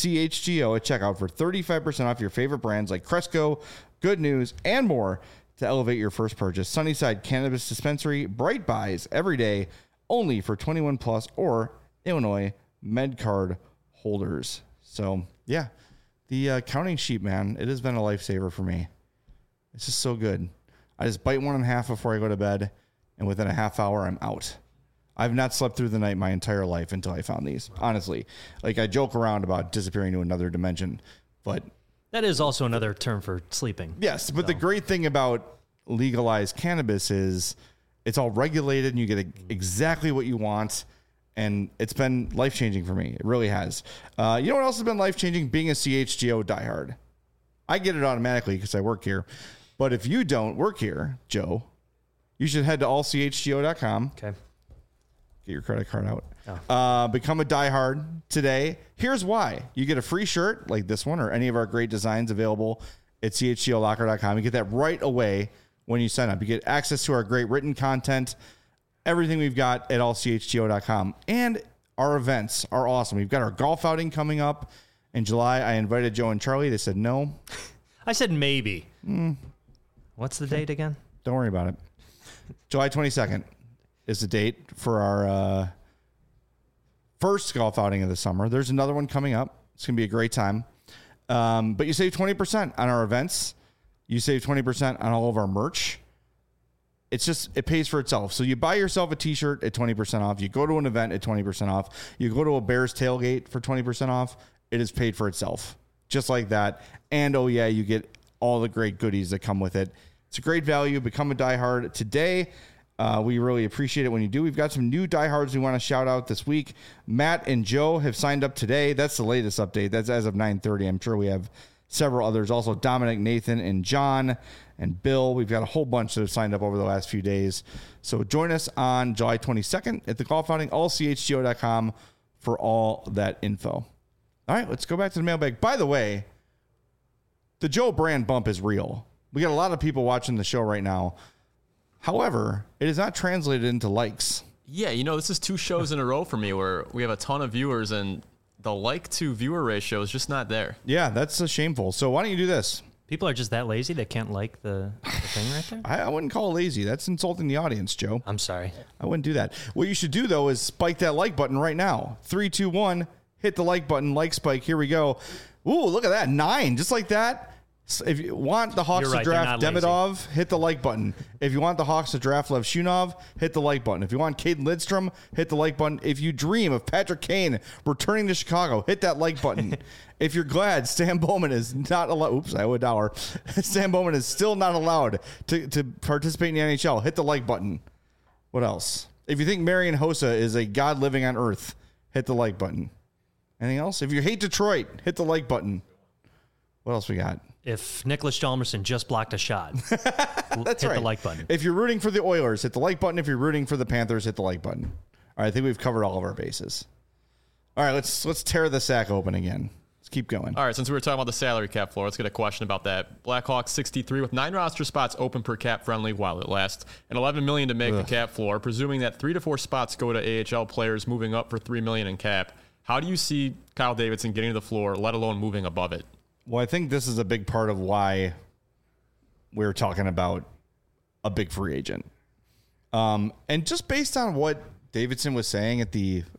at checkout for 35% off your favorite brands like Cresco, Good News, and more to elevate your first purchase. Sunnyside Cannabis Dispensary, bright buys every day, only for 21 plus or Illinois MedCard holders. So, yeah, the counting sheep, man, it has been a lifesaver for me. It's just so good. I just bite one in half before I go to bed, and within a half hour, I'm out. I've not slept through the night my entire life until I found these, honestly. Like, I joke around about disappearing to another dimension, but... That is also another term for sleeping. Yes, but the great thing about legalized cannabis is it's all regulated, and you get exactly what you want, and it's been life-changing for me. It really has. You know what else has been life-changing? Being a CHGO diehard. I get it automatically because I work here. But if you don't work here, Joe, you should head to allchgo.com. Okay. Get your credit card out. Become a diehard today. Here's why. You get a free shirt like this one or any of our great designs available at chgolocker.com. You get that right away when you sign up. You get access to our great written content, everything we've got at allchgo.com. And our events are awesome. We've got our golf outing coming up in July. I invited Joe and Charlie. They said no. I said maybe. What's the date again? Don't worry about it. July 22nd is the date for our first golf outing of the summer. There's another one coming up. It's going to be a great time. But you save 20% on our events. You save 20% on all of our merch. It pays for itself. So you buy yourself a t-shirt at 20% off. You go to an event at 20% off. You go to a Bears tailgate for 20% off. It is paid for itself. Just like that. And, oh, yeah, you get all the great goodies that come with it. It's a great value. Become a diehard today. We really appreciate it when you do. We've got some new diehards we want to shout out this week. Matt and Joe have signed up today. That's the latest update. That's as of 9:30. I'm sure we have several others. Also, Dominic, Nathan, and John, and Bill. We've got a whole bunch that have signed up over the last few days. So join us on July 22nd at the golf outing, allchgo.com for all that info. All right, let's go back to the mailbag. By the way, the Joe brand bump is real. We got a lot of people watching the show right now. However, it is not translated into likes. Yeah, this is 2 shows in a row for me where we have a ton of viewers and the like to viewer ratio is just not there. Yeah, that's shameful. So why don't you do this? People are just that lazy they can't like the thing right there? I wouldn't call it lazy. That's insulting the audience, Joe. I'm sorry. I wouldn't do that. What you should do, though, is spike that like button right now. 3, 2, 1. Hit the like button. Like spike. Here we go. Ooh, look at that. 9. Just like that. So if you want the Hawks to draft Demidov, hit the like button. If you want the Hawks to draft Lev Shunov, hit the like button. If you want Caden Lidstrom, hit the like button. If you dream of Patrick Kane returning to Chicago, hit that like button. If you're glad Stan Bowman is not allowed, oops, I would dollar. Stan Bowman is still not allowed to participate in the NHL, hit the like button. What else? If you think Marian Hossa is a god living on earth, hit the like button. Anything else? If you hate Detroit, hit the like button. What else we got? If Nicholas Hjalmarsson just blocked a shot, hit the like button. If you're rooting for the Oilers, hit the like button. If you're rooting for the Panthers, hit the like button. All right, I think we've covered all of our bases. All right, let's tear the sack open again. Let's keep going. All right, since we were talking about the salary cap floor, let's get a question about that. Blackhawks 63 with 9 roster spots open per cap friendly while it lasts, and $11 million to make the cap floor. Presuming that 3 to 4 spots go to AHL players, moving up for $3 million in cap. How do you see Kyle Davidson getting to the floor, let alone moving above it? Well, I think this is a big part of why we're talking about a big free agent. And just based on what Davidson was saying at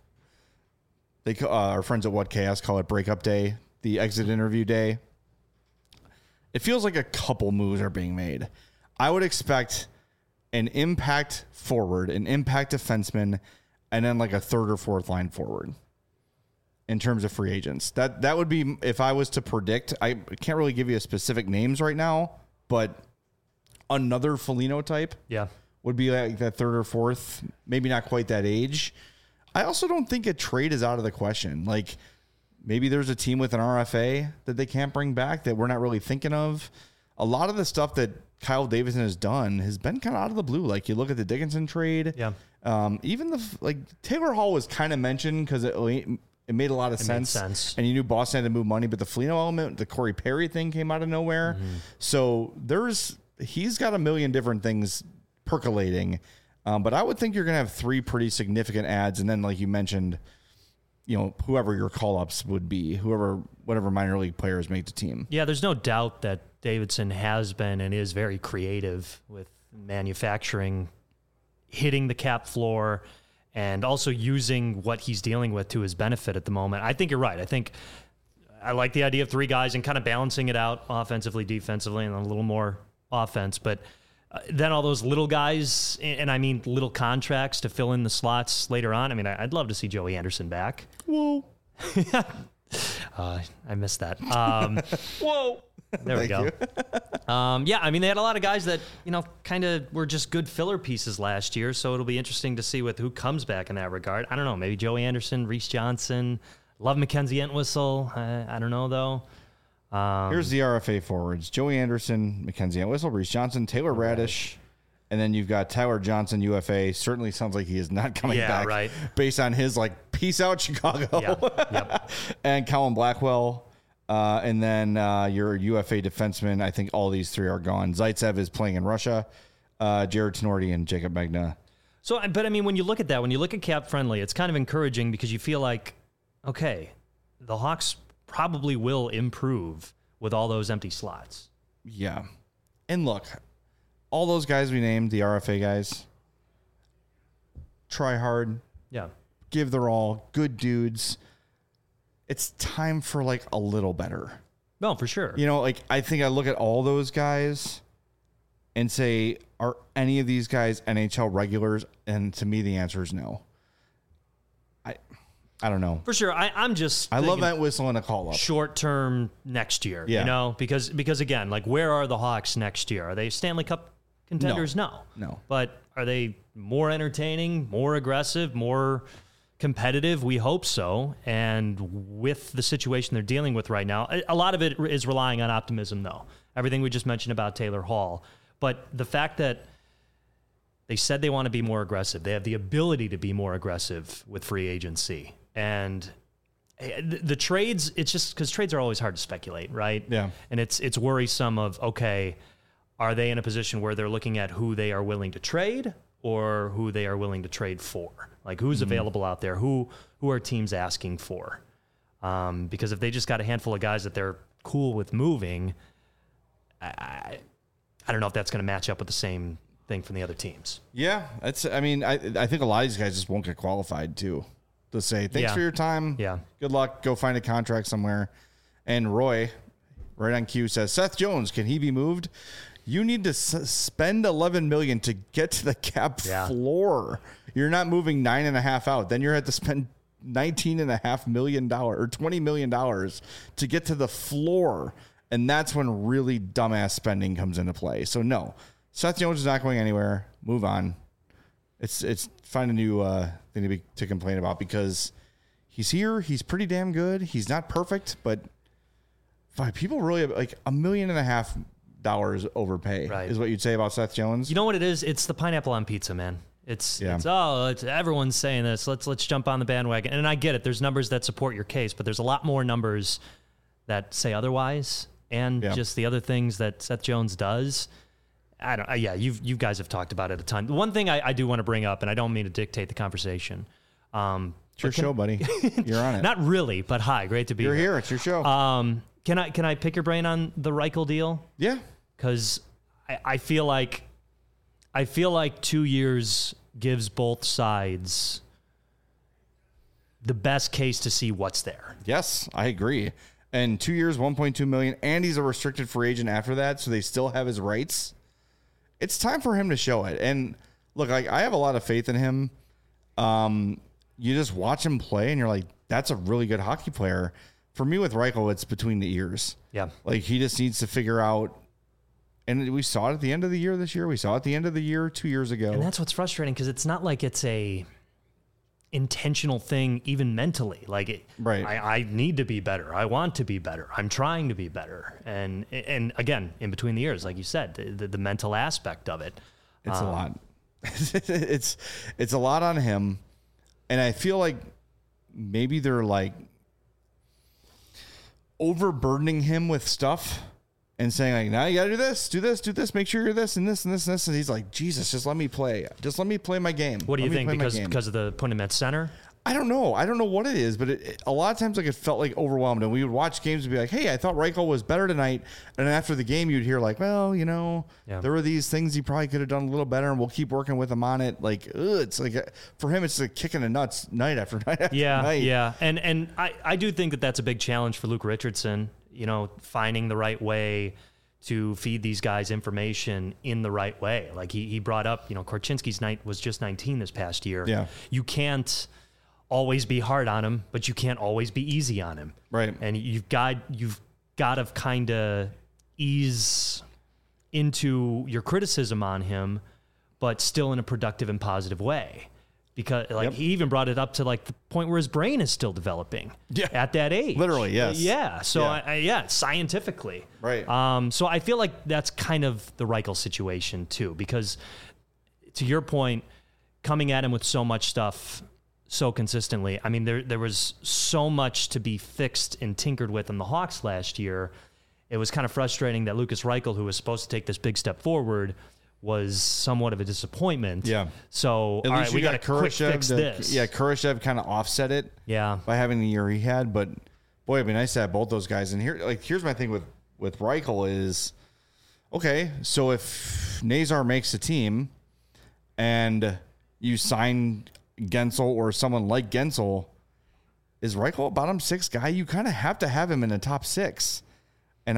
our friends at What Chaos call it breakup day, the exit interview day, it feels like a couple moves are being made. I would expect an impact forward, an impact defenseman, and then like a third or fourth line forward. In terms of free agents, that would be, if I was to predict, I can't really give you specific names right now, but another Foligno type would be like that third or fourth, maybe not quite that age. I also don't think a trade is out of the question. Like maybe there's a team with an RFA that they can't bring back that we're not really thinking of. A lot of the stuff that Kyle Davidson has done has been kind of out of the blue. Like you look at the Dickinson trade. Yeah. Even Taylor Hall was kind of mentioned because it made a lot of sense. And you knew Boston had to move money, but the Foligno element, the Corey Perry thing came out of nowhere. Mm-hmm. So he's got a million different things percolating. But I would think you're going to have 3 pretty significant ads. And then, like you mentioned, whoever your call-ups would be, whatever minor league players make the team. Yeah, there's no doubt that Davidson has been and is very creative with manufacturing, hitting the cap floor, and also using what he's dealing with to his benefit at the moment. I think you're right. I think I like the idea of 3 guys and kind of balancing it out offensively, defensively, and a little more offense. But then all those little guys, and I mean little contracts to fill in the slots later on. I mean, I'd love to see Joey Anderson back. Whoa. I missed that. Whoa. There we go. Yeah, I mean, they had a lot of guys that, kind of were just good filler pieces last year, so it'll be interesting to see who comes back in that regard. I don't know, maybe Joey Anderson, Reese Johnson, love Mackenzie Entwistle. I don't know, though. Here's the RFA forwards. Joey Anderson, Mackenzie Entwistle, Reese Johnson, Taylor Radish, and then you've got Tyler Johnson, UFA. Certainly sounds like he is not coming back based on his, peace out, Chicago. Yeah. Yep. And Colin Blackwell. And then your UFA defenseman, I think all these 3 are gone. Zaitsev is playing in Russia. Jared Tenorti and Jacob Magna. So, but I mean, when you look at that, when you look at cap friendly, it's kind of encouraging because you feel like, okay, the Hawks probably will improve with all those empty slots. Yeah. And look, all those guys we named, the RFA guys, try hard. Yeah. Give their all. Good dudes. It's time for a little better. No, for sure. I think I look at all those guys and say, are any of these guys NHL regulars? And to me, the answer is no. I don't know. For sure. I love that whistle and a call up. Short term next year, because again, where are the Hawks next year? Are they Stanley Cup contenders? No. But are they more entertaining, more aggressive, more competitive? We hope so. And with the situation they're dealing with right now, a lot of it is relying on optimism, though. Everything we just mentioned about Taylor Hall. But the fact that they said they want to be more aggressive, they have the ability to be more aggressive with free agency. And the trades, it's just because trades are always hard to speculate, right? Yeah. And it's worrisome of, okay, are they in a position where they're looking at who they are willing to trade or who they are willing to trade for? Who's available out there? Who are teams asking for? Because if they just got a handful of guys that they're cool with moving, I don't know if that's going to match up with the same thing from the other teams. Yeah, I think a lot of these guys just won't get qualified too. To say thanks for your time. Yeah, good luck. Go find a contract somewhere. And Roy, right on cue, says Seth Jones, can he be moved? You need to spend $11 million to get to the cap floor. You're not moving $9.5 out. Then you're going to have to spend $19.5 million or $20 million to get to the floor. And that's when really dumbass spending comes into play. So no, Seth Jones is not going anywhere. Move on. It's find a new thing to complain about because he's here. He's pretty damn good. He's not perfect, but people really like $1.5 million overpay is what you'd say about Seth Jones. You know what it is? It's the pineapple on pizza, man. It's everyone's saying this. Let's jump on the bandwagon. And I get it. There's numbers that support your case, but there's a lot more numbers that say otherwise. And just the other things that Seth Jones does. You guys have talked about it a ton. The one thing I do want to bring up, and I don't mean to dictate the conversation. It's your show, buddy. You're on it. Not really, but hi, great to be here. You're here. It's your show. Can I pick your brain on the Reichel deal? Yeah. Because I feel like 2 years gives both sides the best case to see what's there. Yes, I agree. And 2 years, $1.2 million, and he's a restricted free agent after that, so they still have his rights. It's time for him to show it. And look, I have a lot of faith in him. You just watch him play, and you're like, that's a really good hockey player. For me with Reichel, it's between the ears. Yeah. Like, he just needs to figure out. And we saw it at the end of the year this year. We saw it at the end of the year 2 years ago. And that's what's frustrating because it's not like it's a intentional thing, even mentally. Like, I need to be better. I want to be better. I'm trying to be better. And again, in between the ears, like you said, the mental aspect of it. It's a lot. It's a lot on him. And I feel like maybe they're like overburdening him with stuff and saying like, now you got to do this, make sure you're this and this and this and this. And he's like, Jesus, just let me play. Just let me play my game. What do you think? Because of the putting him at center? I don't know. I don't know what it is, but a lot of times like it felt like overwhelmed. And we would watch games and be like, hey, I thought Reichel was better tonight. And after the game, you'd hear like, well, there were these things he probably could have done a little better, and we'll keep working with him on it. Like, it's like for him, it's like kicking the nuts night after night after night. Yeah. And I do think that that's a big challenge for Luke Richardson. Finding the right way to feed these guys information in the right way. Like he brought up, Korchinski's night was just 19 this past year. Yeah. You can't always be hard on him, but you can't always be easy on him. Right. And you've got to kind of ease into your criticism on him, but still in a productive and positive way. Because he even brought it up to like the point where his brain is still developing at that age. Literally, yes. Yeah. So scientifically. Right. So I feel like that's kind of the Reichel situation too, because to your point, coming at him with so much stuff so consistently, I mean, there was so much to be fixed and tinkered with in the Hawks last year. It was kind of frustrating that Lucas Reichel, who was supposed to take this big step forward, was somewhat of a disappointment. Yeah. So, all right, we got to quick fix this. Yeah, Kurashev kind of offset it. Yeah. By having the year he had, but boy, it'd be nice to have both those guys. And here's my thing with Reichel is, okay, so if Nazar makes a team and you sign Gensel or someone like Gensel, is Reichel a bottom six guy? You kind of have to have him in the top six. And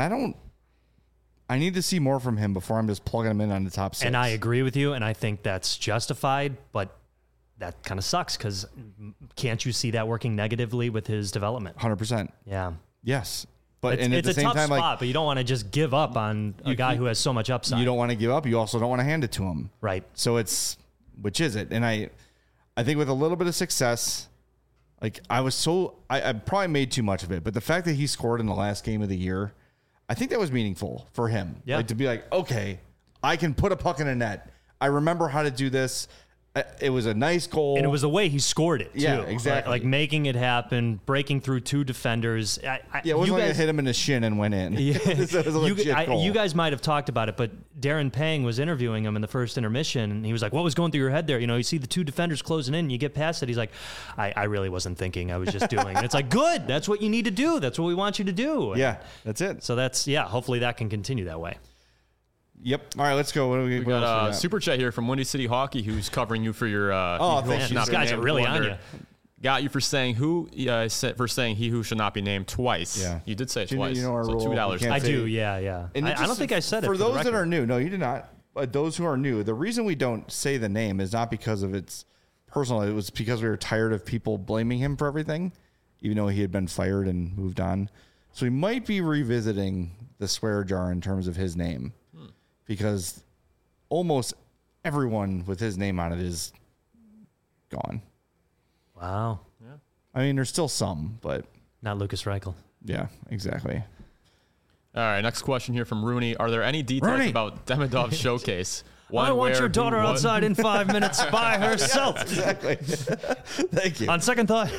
I need to see more from him before I'm just plugging him in on the top six. And I agree with you, and I think that's justified, but that kind of sucks because can't you see that working negatively with his development? 100%. Yeah. Yes. But it's at the a same tough time, spot, but you don't want to just give up on a guy who has so much upside. You don't want to give up. You also don't want to hand it to him. Right. So which is it? And I think with a little bit of success, like I probably made too much of it, but the fact that he scored in the last game of the year, I think that was meaningful for him. Yeah. Like to be like, okay, I can put a puck in a net. I remember how to do this. It was a nice goal. And it was the way he scored it, too. Yeah, exactly. Like making it happen, breaking through 2 defenders. It wasn't like it hit him in the shin and went in. Yeah. So it was a legit goal. You guys might have talked about it, but Darren Pang was interviewing him in the first intermission, and he was like, what was going through your head there? You see the 2 defenders closing in, and you get past it. He's like, I really wasn't thinking. I was just doing. And it's like, good. That's what you need to do. That's what we want you to do. Yeah, that's it. So hopefully that can continue that way. Yep. All right, let's go. What do we got? Super chat here from Windy City Hockey, who's covering you for your. Thanks. These guys are really on you. Got you for saying he who should not be named twice. Yeah, you did say it twice. You know our so rule. $2. I do. Yeah. I don't think I said it for those that are new. No, you did not. Those who are new, the reason we don't say the name is not because of its personal. It was because we were tired of people blaming him for everything, even though he had been fired and moved on. So we might be revisiting the swear jar in terms of his name. Because almost everyone with his name on it is gone. Wow. Yeah. I mean, there's still some, but not Lucas Reichel. Yeah, exactly. All right, next question here from Rooney. Are there any details about Demidov's showcase? I want your daughter outside in 5 minutes by herself. Yeah, exactly. Thank you. On second thought.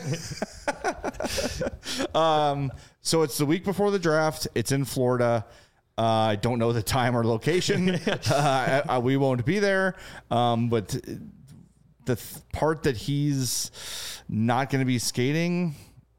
So it's the week before the draft. It's in Florida. I don't know the time or location. We won't be there. But the part that he's not going to be skating,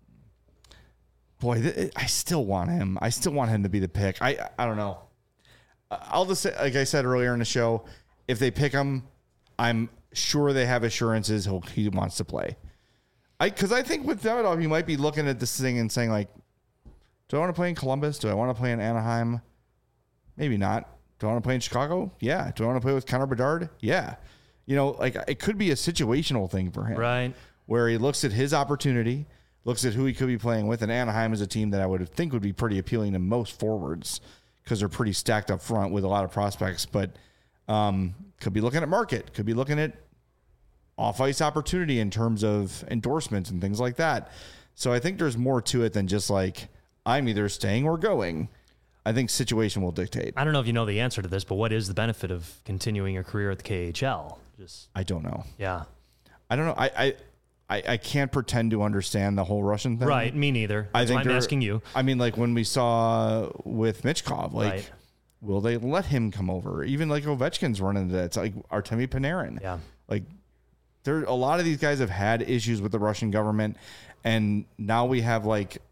boy, I still want him. I still want him to be the pick. I don't know. I'll just say, like I said earlier in the show, if they pick him, I'm sure they have assurances he wants to play. Because I think with Demidov, he might be looking at this thing and saying, like, do I want to play in Columbus? Do I want to play in Anaheim? Maybe not. Do I want to play in Chicago? Yeah. Do I want to play with Connor Bedard? Yeah. It could be a situational thing for him. Right. Where he looks at his opportunity, looks at who he could be playing with, and Anaheim is a team that I would think would be pretty appealing to most forwards because they're pretty stacked up front with a lot of prospects, but could be looking at market, could be looking at off-ice opportunity in terms of endorsements and things like that. So I think there's more to it than just like, I'm either staying or going. I think situation will dictate. I don't know if you know the answer to this, but what is the benefit of continuing your career at the KHL? I don't know. Yeah. I don't know. I can't pretend to understand the whole Russian thing. Right. Me neither. That's why I'm asking you. I mean, like when we saw with Michkov, will they let him come over? Even like Ovechkin's running into that. It's like Artemi Panarin. Yeah. Like a lot of these guys have had issues with the Russian government. And now we have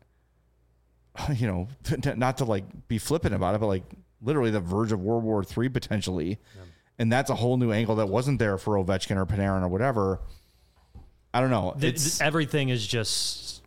not to be flippant about it, but literally the verge of World War III potentially. Yeah. And that's a whole new angle that wasn't there for Ovechkin or Panarin or whatever. I don't know. Everything is just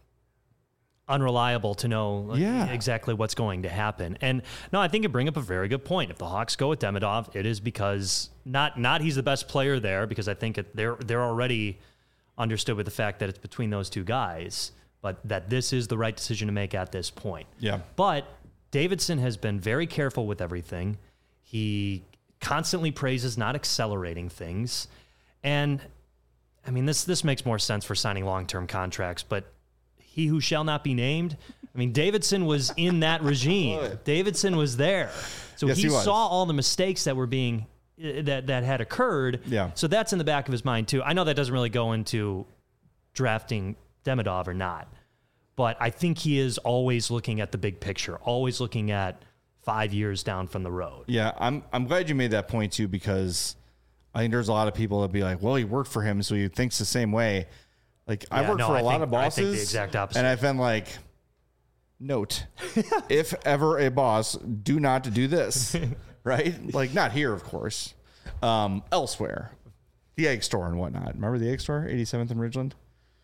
unreliable to know exactly what's going to happen. And no, I think you bring up a very good point. If the Hawks go with Demidov, it is because not he's the best player there, because I think they're already understood with the fact that it's between those two guys, but that this is the right decision to make at this point. Yeah. But Davidson has been very careful with everything. He constantly praises not accelerating things. And I mean, this makes more sense for signing long-term contracts, but he who shall not be named, I mean, Davidson was in that regime. Davidson was there. So he saw all the mistakes that were being, that had occurred. Yeah. So that's in the back of his mind too. I know that doesn't really go into drafting Demidov or not, but I think he is always looking at the big picture, always looking at 5 years down from the road. Yeah. I'm glad you made that point too, because I think there's a lot of people that be like, well, he worked for him, so he thinks the same way. I worked for a lot of bosses. I think the exact opposite. And I've been like, note, if ever a boss, do not do this. Right? Not here, of course. Elsewhere. The egg store and whatnot. Remember the egg store? 87th and Ridgeland?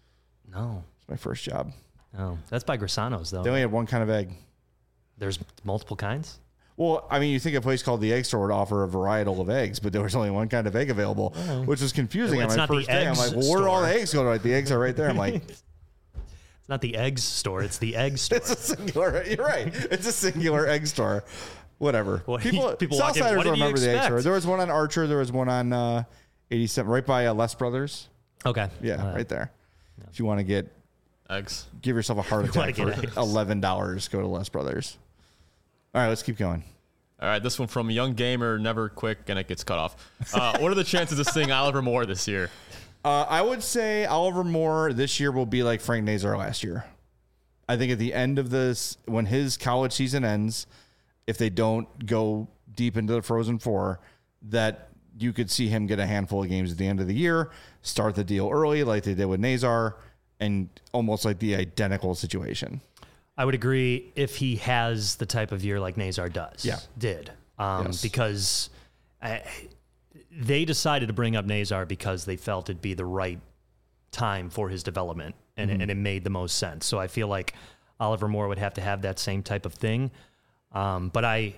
No. It's my first job. Oh, that's by Grisano's, though. They only had one kind of egg. There's multiple kinds? Well, I mean, you think a place called the Egg Store would offer a varietal of eggs, but there was only one kind of egg available, which was confusing. It's on my not first the day, I'm eggs like, well, where do all the store. eggs go? The eggs are right there. I'm like, it's not the eggs store. It's the egg store. It's a singular. You're right. It's a singular egg store. Whatever. Well, people Southsiders remember the egg store. There was one on Archer. There was one on 87, right by Les Brothers. Okay. Yeah, right there. Yeah. If you want to get eggs, give yourself a heart attack for $11. Go to Les Brothers. All right, let's keep going. All right, this one from a young gamer, never quick, and it gets cut off. What are the chances of seeing Oliver Moore this year? I would say Oliver Moore this year will be like Frank Nazar last year. I think at the end of this, when his college season ends, if they don't go deep into the Frozen Four, that you could see him get a handful of games at the end of the year, start the deal early like they did with Nazar, and almost like the identical situation. I would agree if he has the type of year like Nazar does. Yeah. Did. Yes. Because they decided to bring up Nazar because they felt it'd be the right time for his development, and, and it made the most sense. So I feel like Oliver Moore would have to have that same type of thing. But I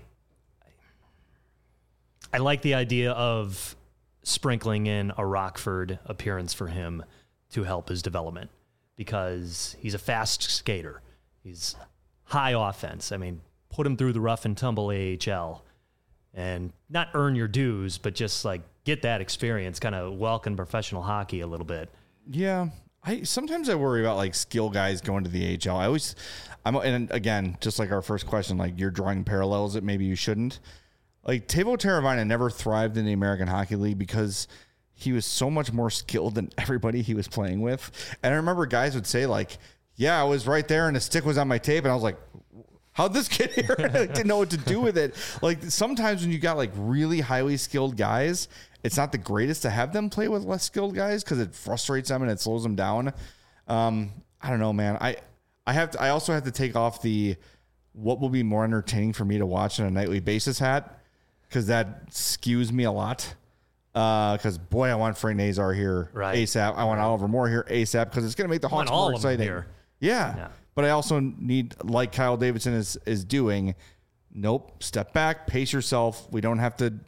like the idea of sprinkling in a Rockford appearance for him to help his development, because he's a fast skater. He's high offense. I mean, put him through the rough and tumble AHL and not earn your dues, but just like get that experience, kind of welcome professional hockey a little bit. Yeah. Sometimes I worry about like skill guys going to the AHL. And again, just like our first question, like you're drawing parallels that maybe you shouldn't. Like Teuvo Teravainen never thrived in the American Hockey League because he was so much more skilled than everybody he was playing with. And I remember guys would say like, yeah, I was right there and the stick was on my tape. And I was like, how'd this get here? I didn't know what to do with it. Like sometimes when you got like really highly skilled guys, it's not the greatest to have them play with less skilled guys because it frustrates them and it slows them down. I don't know, man. I also have to take off the what will be more entertaining for me to watch on a nightly basis hat, because that skews me a lot. Because boy, I want Frank Nazar here ASAP. I want Oliver Moore here ASAP because it's going to make the Hawks more exciting. Yeah. But I also need, like Kyle Davidson is doing, step back, pace yourself. We don't have to,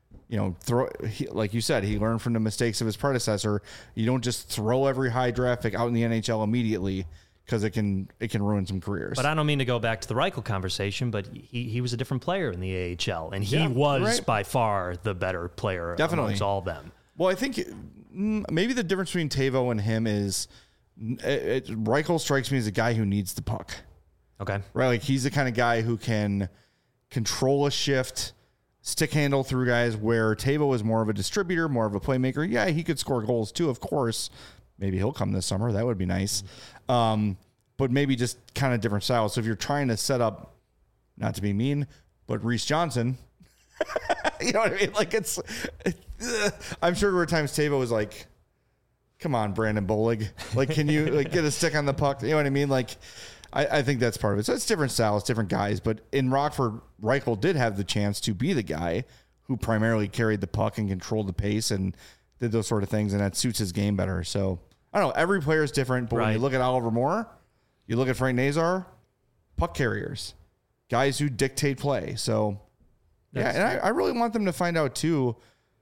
like you said, he learned from the mistakes of his predecessor. You don't just throw every high draft pick out in the NHL immediately, because it can ruin some careers. But I don't mean to go back to the Reichel conversation, but he was a different player in the AHL, and he was by far the better player amongst all of them. Well, I think maybe the difference between Teuvo and him is Reichel strikes me as a guy who needs the puck. Okay. Right? Like he's the kind of guy who can control a shift, stick handle through guys, where Teuvo is more of a distributor, more of a playmaker. Yeah, he could score goals too, of course. Maybe he'll come this summer. That would be nice. But maybe just kind of different styles. So if you're trying to set up, not to be mean, but Reese Johnson, you know what I mean? Like I'm sure there were times Teuvo was like, come on, Brandon Bolig. Like, can you like get a stick on the puck? You know what I mean? Like, I think that's part of it. So it's different styles, different guys. But in Rockford, Reichel did have the chance to be the guy who primarily carried the puck and controlled the pace and did those sort of things. And that suits his game better. So I don't know. Every player is different. But when you look at Oliver Moore, you look at Frank Nazar, puck carriers, guys who dictate play. So, and I really want them to find out, too,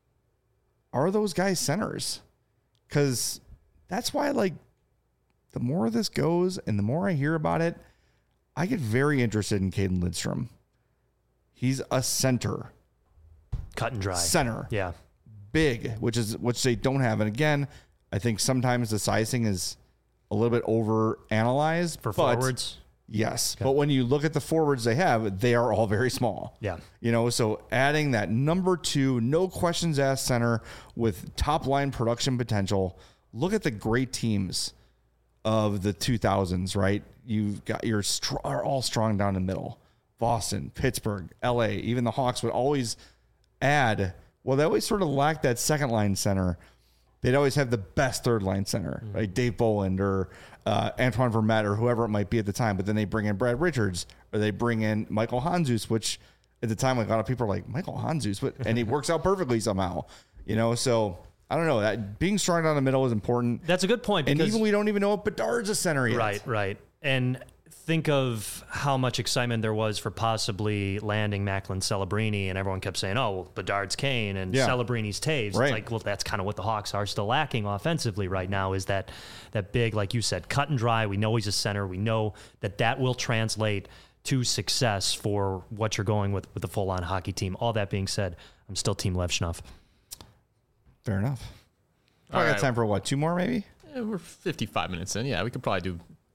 are those guys centers? Because that's why, like, the more this goes and the more I hear about it, I get very interested in Caden Lidstrom. He's a center. Cut and dry. Center. Yeah. Big, which they don't have. And again, I think sometimes the sizing is a little bit over analyzed for forwards. Yes. Okay. But when you look at the forwards they have, they are all very small. Yeah. So adding that number 2, no questions asked center with top line production potential. Look at the great teams of the 2000s, right? You've got are all strong down the middle. Boston, Pittsburgh, LA, even the Hawks would always add. Well, they always sort of lack that second line center. They'd always have the best third line center, like Dave Boland or Antoine Vermette or whoever it might be at the time. But then they bring in Brad Richards or they bring in Michael Handzus, which at the time, like a lot of people are like, Michael Handzus, and he works out perfectly somehow, So I don't know. That being strong down the middle is important. That's a good point. And even we don't even know if Bedard's a center yet. Right. And think of how much excitement there was for possibly landing Macklin Celebrini, and everyone kept saying, oh, well, Bedard's Kane and Celebrini's Taves. Right. It's like, well, that's kind of what the Hawks are still lacking offensively right now, is that big, like you said, cut and dry. We know he's a center. We know that will translate to success for what you're going with the full-on hockey team. All that being said, I'm still Team Lev Schnuff. Fair enough. I got time for 2 more maybe? Yeah, we're 55 minutes in. Yeah, we could probably do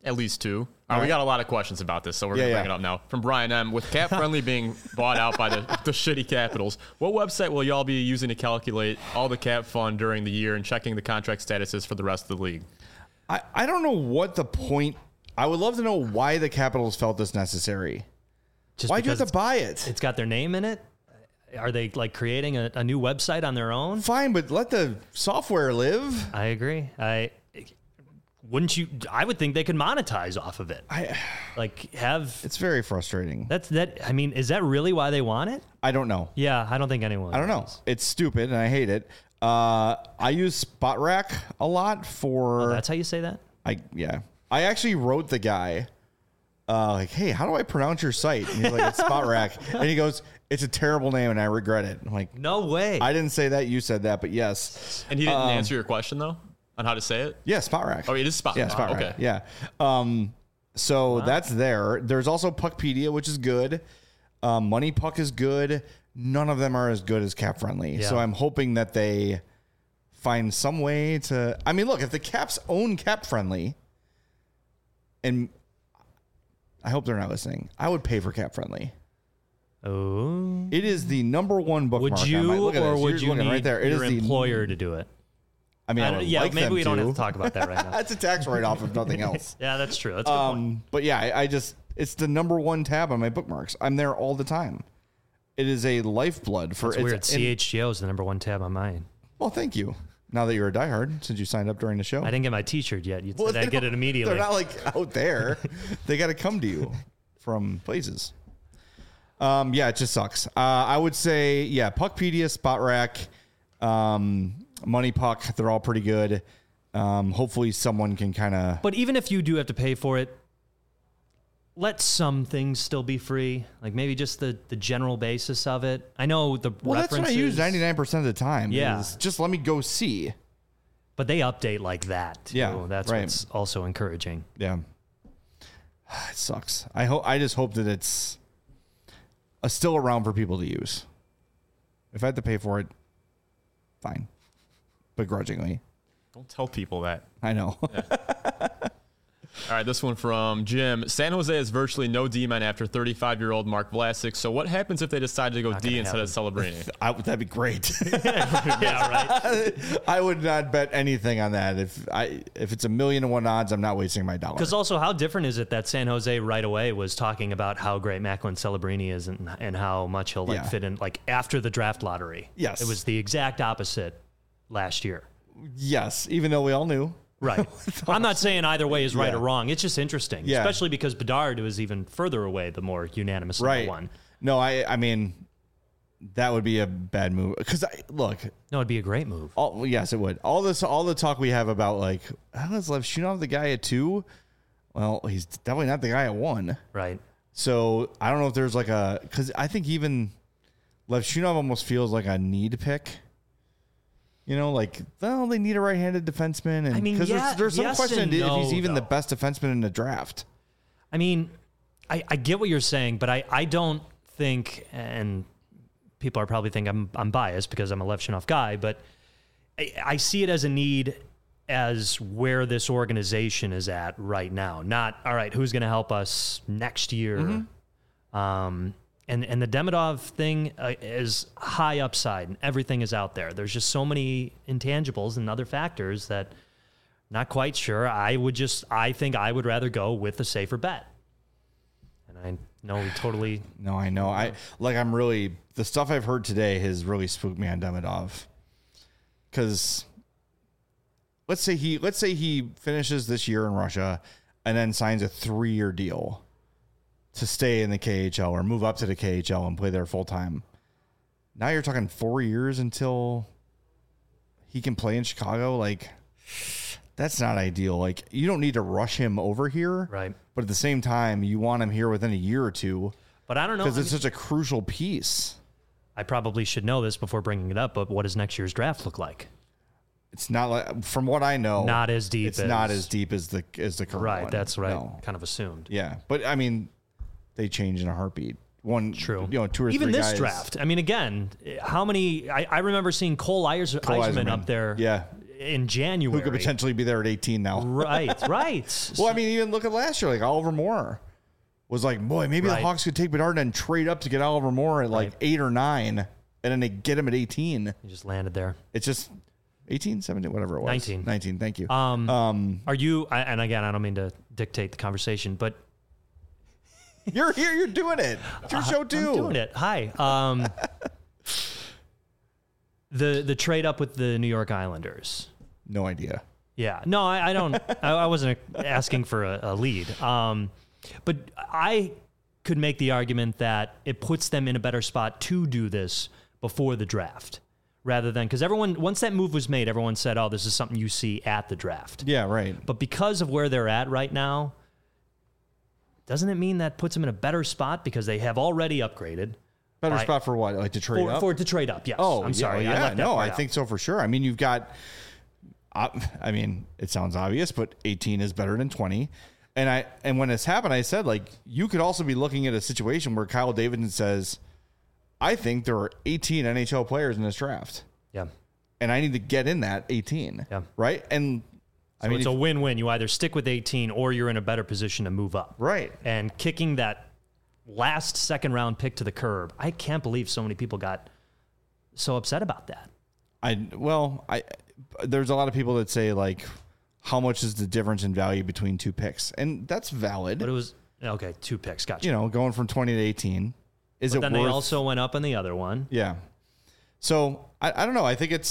At least 2. We got a lot of questions about this, so we're going to bring it up now. From Brian M. With Cap Friendly being bought out by the shitty Capitals, what website will y'all be using to calculate all the cap fund during the year and checking the contract statuses for the rest of the league? I don't know what the point. I would love to know why the Capitals felt this necessary. Why'd you have to buy it? It's got their name in it. Are they like creating a new website on their own? Fine, but let the software live. I agree. Wouldn't you? I would think they could monetize off of it. It's very frustrating. I mean, is that really why they want it? I don't know. Yeah, I don't think anyone. I don't know. It's stupid and I hate it. I use SpotRack a lot for. Oh, that's how you say that? I actually wrote the guy, hey, how do I pronounce your site? And he's like, it's SpotRack. And he goes, it's a terrible name and I regret it. I'm like, no way. I didn't say that. You said that, but yes. And he didn't answer your question though on how to say it? Yeah, SpotRack. Oh, it is SpotRack. Yeah, SpotRack. Okay. Yeah. So that's there. There's also Puckpedia, which is good. Money Puck is good. None of them are as good as Cap Friendly. Yeah. So I'm hoping that they find some way to. I mean, look, if the Caps own Cap Friendly, and I hope they're not listening, I would pay for Cap Friendly. Oh, it is the number one bookmark. Would you, or would you need right there. It your is employer to do it? I mean, maybe we don't have to talk about that right now. That's a tax write-off if nothing else. Yeah, that's true. That's a good point. But yeah, it's the number one tab on my bookmarks. I'm there all the time. It is a lifeblood for. It's weird. CHGO is the number one tab on mine. Well, thank you. Now that you're a diehard, since you signed up during the show, I didn't get my T-shirt yet. You said I'd get it immediately. They're not like out there. They got to come to you from places. Yeah, it just sucks. I would say, Puckpedia, SpotRack, Money Puck, they're all pretty good. Hopefully someone can kind of. But even if you do have to pay for it, let some things still be free. Like maybe just the general basis of it. I know the references. That's what I use 99% of the time. Yeah. Just let me go see. But they update like that too. Yeah, That's right. what's also encouraging. Yeah. It sucks. I just hope that it's still around for people to use. If I had to pay for it, fine. Begrudgingly. Don't tell people that. I know. Yeah. All right, this one from Jim. San Jose has virtually no D-men after 35-year-old Mark Vlasic. So what happens if they decide to go D instead of Celebrini? That'd be great. Yeah, right. I would not bet anything on that. If it's 1,000,000-to-1 odds, I'm not wasting my dollar. Because also, how different is it that San Jose right away was talking about how great Macklin Celebrini is and how much he'll fit in after the draft lottery? Yes. It was the exact opposite last year. Yes, even though we all knew. Right. I'm not saying either way is right or wrong. It's just interesting, especially because Bedard was even further away, the more unanimous number one. No, I mean, that would be a bad move. Because, look. No, it'd be a great move. Yes, it would. All the talk we have about, like, is Lev Shunov the guy at 2? Well, he's definitely not the guy at 1. Right. So, I don't know if there's like because I think even Lev Shunov almost feels like a need pick. You know, they need a right-handed defenseman. And, I mean, there's some question if he's even though. the best defenseman in the draft. I mean, I get what you're saying, but I don't think, and people are probably thinking I'm biased because I'm a Lev Shunov guy, but I see it as a need as where this organization is at right now. Not, all right, who's going to help us next year? Mm-hmm. And the Demidov thing is high upside, and everything is out there. There's just so many intangibles and other factors that not quite sure. I think I would rather go with a safer bet. And I know we totally. No, I know. The stuff I've heard today has really spooked me on Demidov. Because let's say he finishes this year in Russia and then signs a 3-year deal to stay in the KHL or move up to the KHL and play there full time. Now you're talking 4 years until he can play in Chicago. Like, that's not ideal. Like, you don't need to rush him over here. Right. But at the same time, you want him here within a year or two. But I don't know. Because it's such a crucial piece. I probably should know this before bringing it up, but what does next year's draft look like? It's not like, from what I know, not as deep. It's not as deep as the current right, one. That's right. No. Kind of assumed. Yeah. But I mean, they change in a heartbeat. True. 2 or 3 even this guys. draft. I mean, again, how many? I remember seeing Cole Eisman up there. Yeah. in January. Who could potentially be there at 18 now. Right. Well, I mean, even look at last year, like Oliver Moore was like, boy, maybe the Hawks could take Bedard and trade up to get Oliver Moore at like 8 or 9, and then they get him at 18. He just landed there. It's just 18, 17, whatever it was. 19, thank you. Are you, and again, I don't mean to dictate the conversation, but you're here, you're doing it. It's your show too. I'm doing it. Hi. The trade up with the New York Islanders. No idea. Yeah. No, I don't. I wasn't asking for a lead. But I could make the argument that it puts them in a better spot to do this before the draft, rather than, because everyone, once that move was made, everyone said, "Oh, this is something you see at the draft." Yeah, right. But because of where they're at right now, doesn't it mean that puts them in a better spot because they have already upgraded? Better spot for what? Like to trade up? For to trade up, yes. Oh, I'm sorry. I think so for sure. I mean, you've got, I mean, it sounds obvious, but 18 is better than 20. And when this happened, I said, like, you could also be looking at a situation where Kyle Davidson says, I think there are 18 NHL players in this draft. Yeah. And I need to get in that 18. Yeah. Right? And I mean, it's a win-win. You either stick with 18 or you're in a better position to move up. Right. And kicking that last second-round pick to the curb, I can't believe so many people got so upset about that. There's a lot of people that say, like, how much is the difference in value between two picks? And that's valid. But it was, okay, 2 picks. Gotcha. You know, going from 20 to 18. Is it worth? Then they also went up on the other one. Yeah. So, I don't know. I think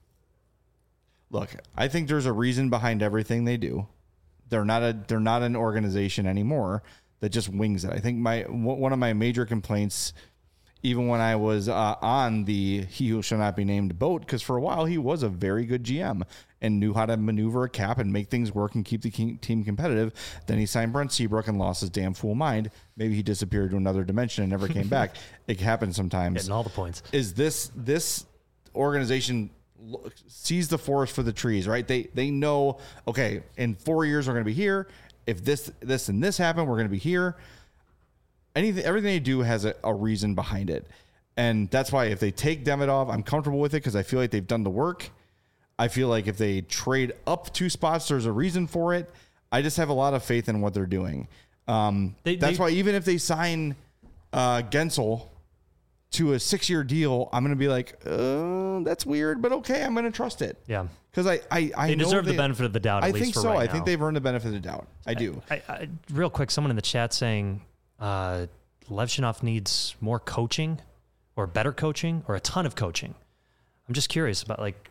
I think there's a reason behind everything they do. They're not an organization anymore that just wings it. I think one of my major complaints, even when I was on the He Who Shall Not Be Named boat, because for a while he was a very good GM and knew how to maneuver a cap and make things work and keep the team competitive. Then he signed Brent Seabrook and lost his damn fool mind. Maybe he disappeared to another dimension and never came back. It happens sometimes. Getting all the points. Is this organization sees the forest for the trees, right? They know, okay, in 4 years we're going to be here. If this and this happen, we're going to be here. Everything they do has a reason behind it. And that's why if they take Demidov, I'm comfortable with it because I feel like they've done the work. I feel like if they trade up 2 spots, there's a reason for it. I just have a lot of faith in what they're doing. That's why even if they sign Gensel to a 6-year deal, I'm going to be like, that's weird, but okay, I'm going to trust it. Yeah. Because they deserve the benefit of the doubt, I think so. I think they've earned the benefit of the doubt. I do. Real quick, someone in the chat saying Levchinov needs more coaching or better coaching or a ton of coaching. I'm just curious about, like,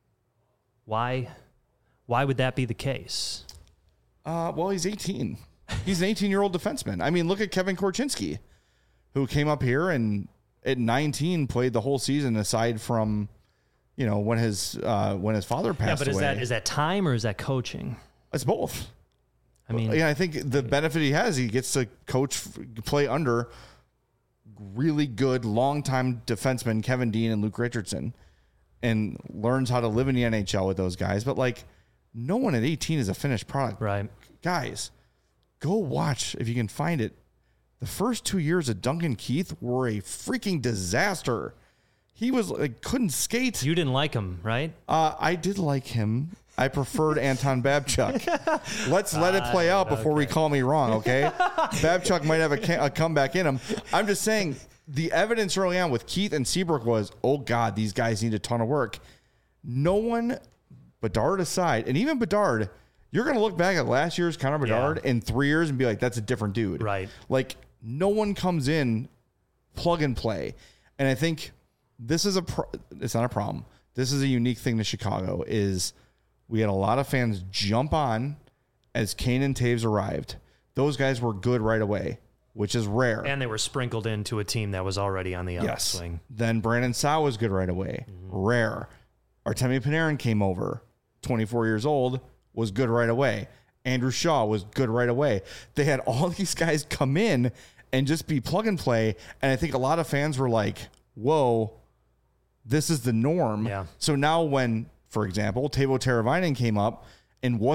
why would that be the case? Well, he's 18. He's an 18-year-old defenseman. I mean, look at Kevin Korchinski, who came up here and at 19 played the whole season aside from, you know, when his father passed away. Yeah, but is that time or is that coaching? It's both. I mean, yeah, I think the benefit he has, he gets to play under really good longtime defensemen Kevin Dean and Luke Richardson, and learns how to live in the NHL with those guys. But like, no one at 18 is a finished product. Right, guys, go watch if you can find it. The first 2 years of Duncan Keith were a freaking disaster. He was like, couldn't skate. You didn't like him, right? I did like him. I preferred Anton Babchuk. Let's let it play out before we call me wrong, okay? Babchuk might have a comeback in him. I'm just saying the evidence early on with Keith and Seabrook was, oh, God, these guys need a ton of work. No one, Bedard aside, and even Bedard, you're going to look back at last year's Connor Bedard in 3 years and be like, that's a different dude. Right. Like, no one comes in plug and play. And I think this is it's not a problem. This is a unique thing to Chicago is we had a lot of fans jump on as Kane and Taves arrived. Those guys were good right away, which is rare. And they were sprinkled into a team that was already on the upswing. Then Brandon Saw was good right away. Mm-hmm. Rare. Artemi Panarin came over, 24 years old, was good right away. Andrew Shaw was good right away. They had all these guys come in and just be plug and play. And I think a lot of fans were like, whoa, this is the norm. Yeah. So now when, for example, Teuvo Teravainen came up and wasn't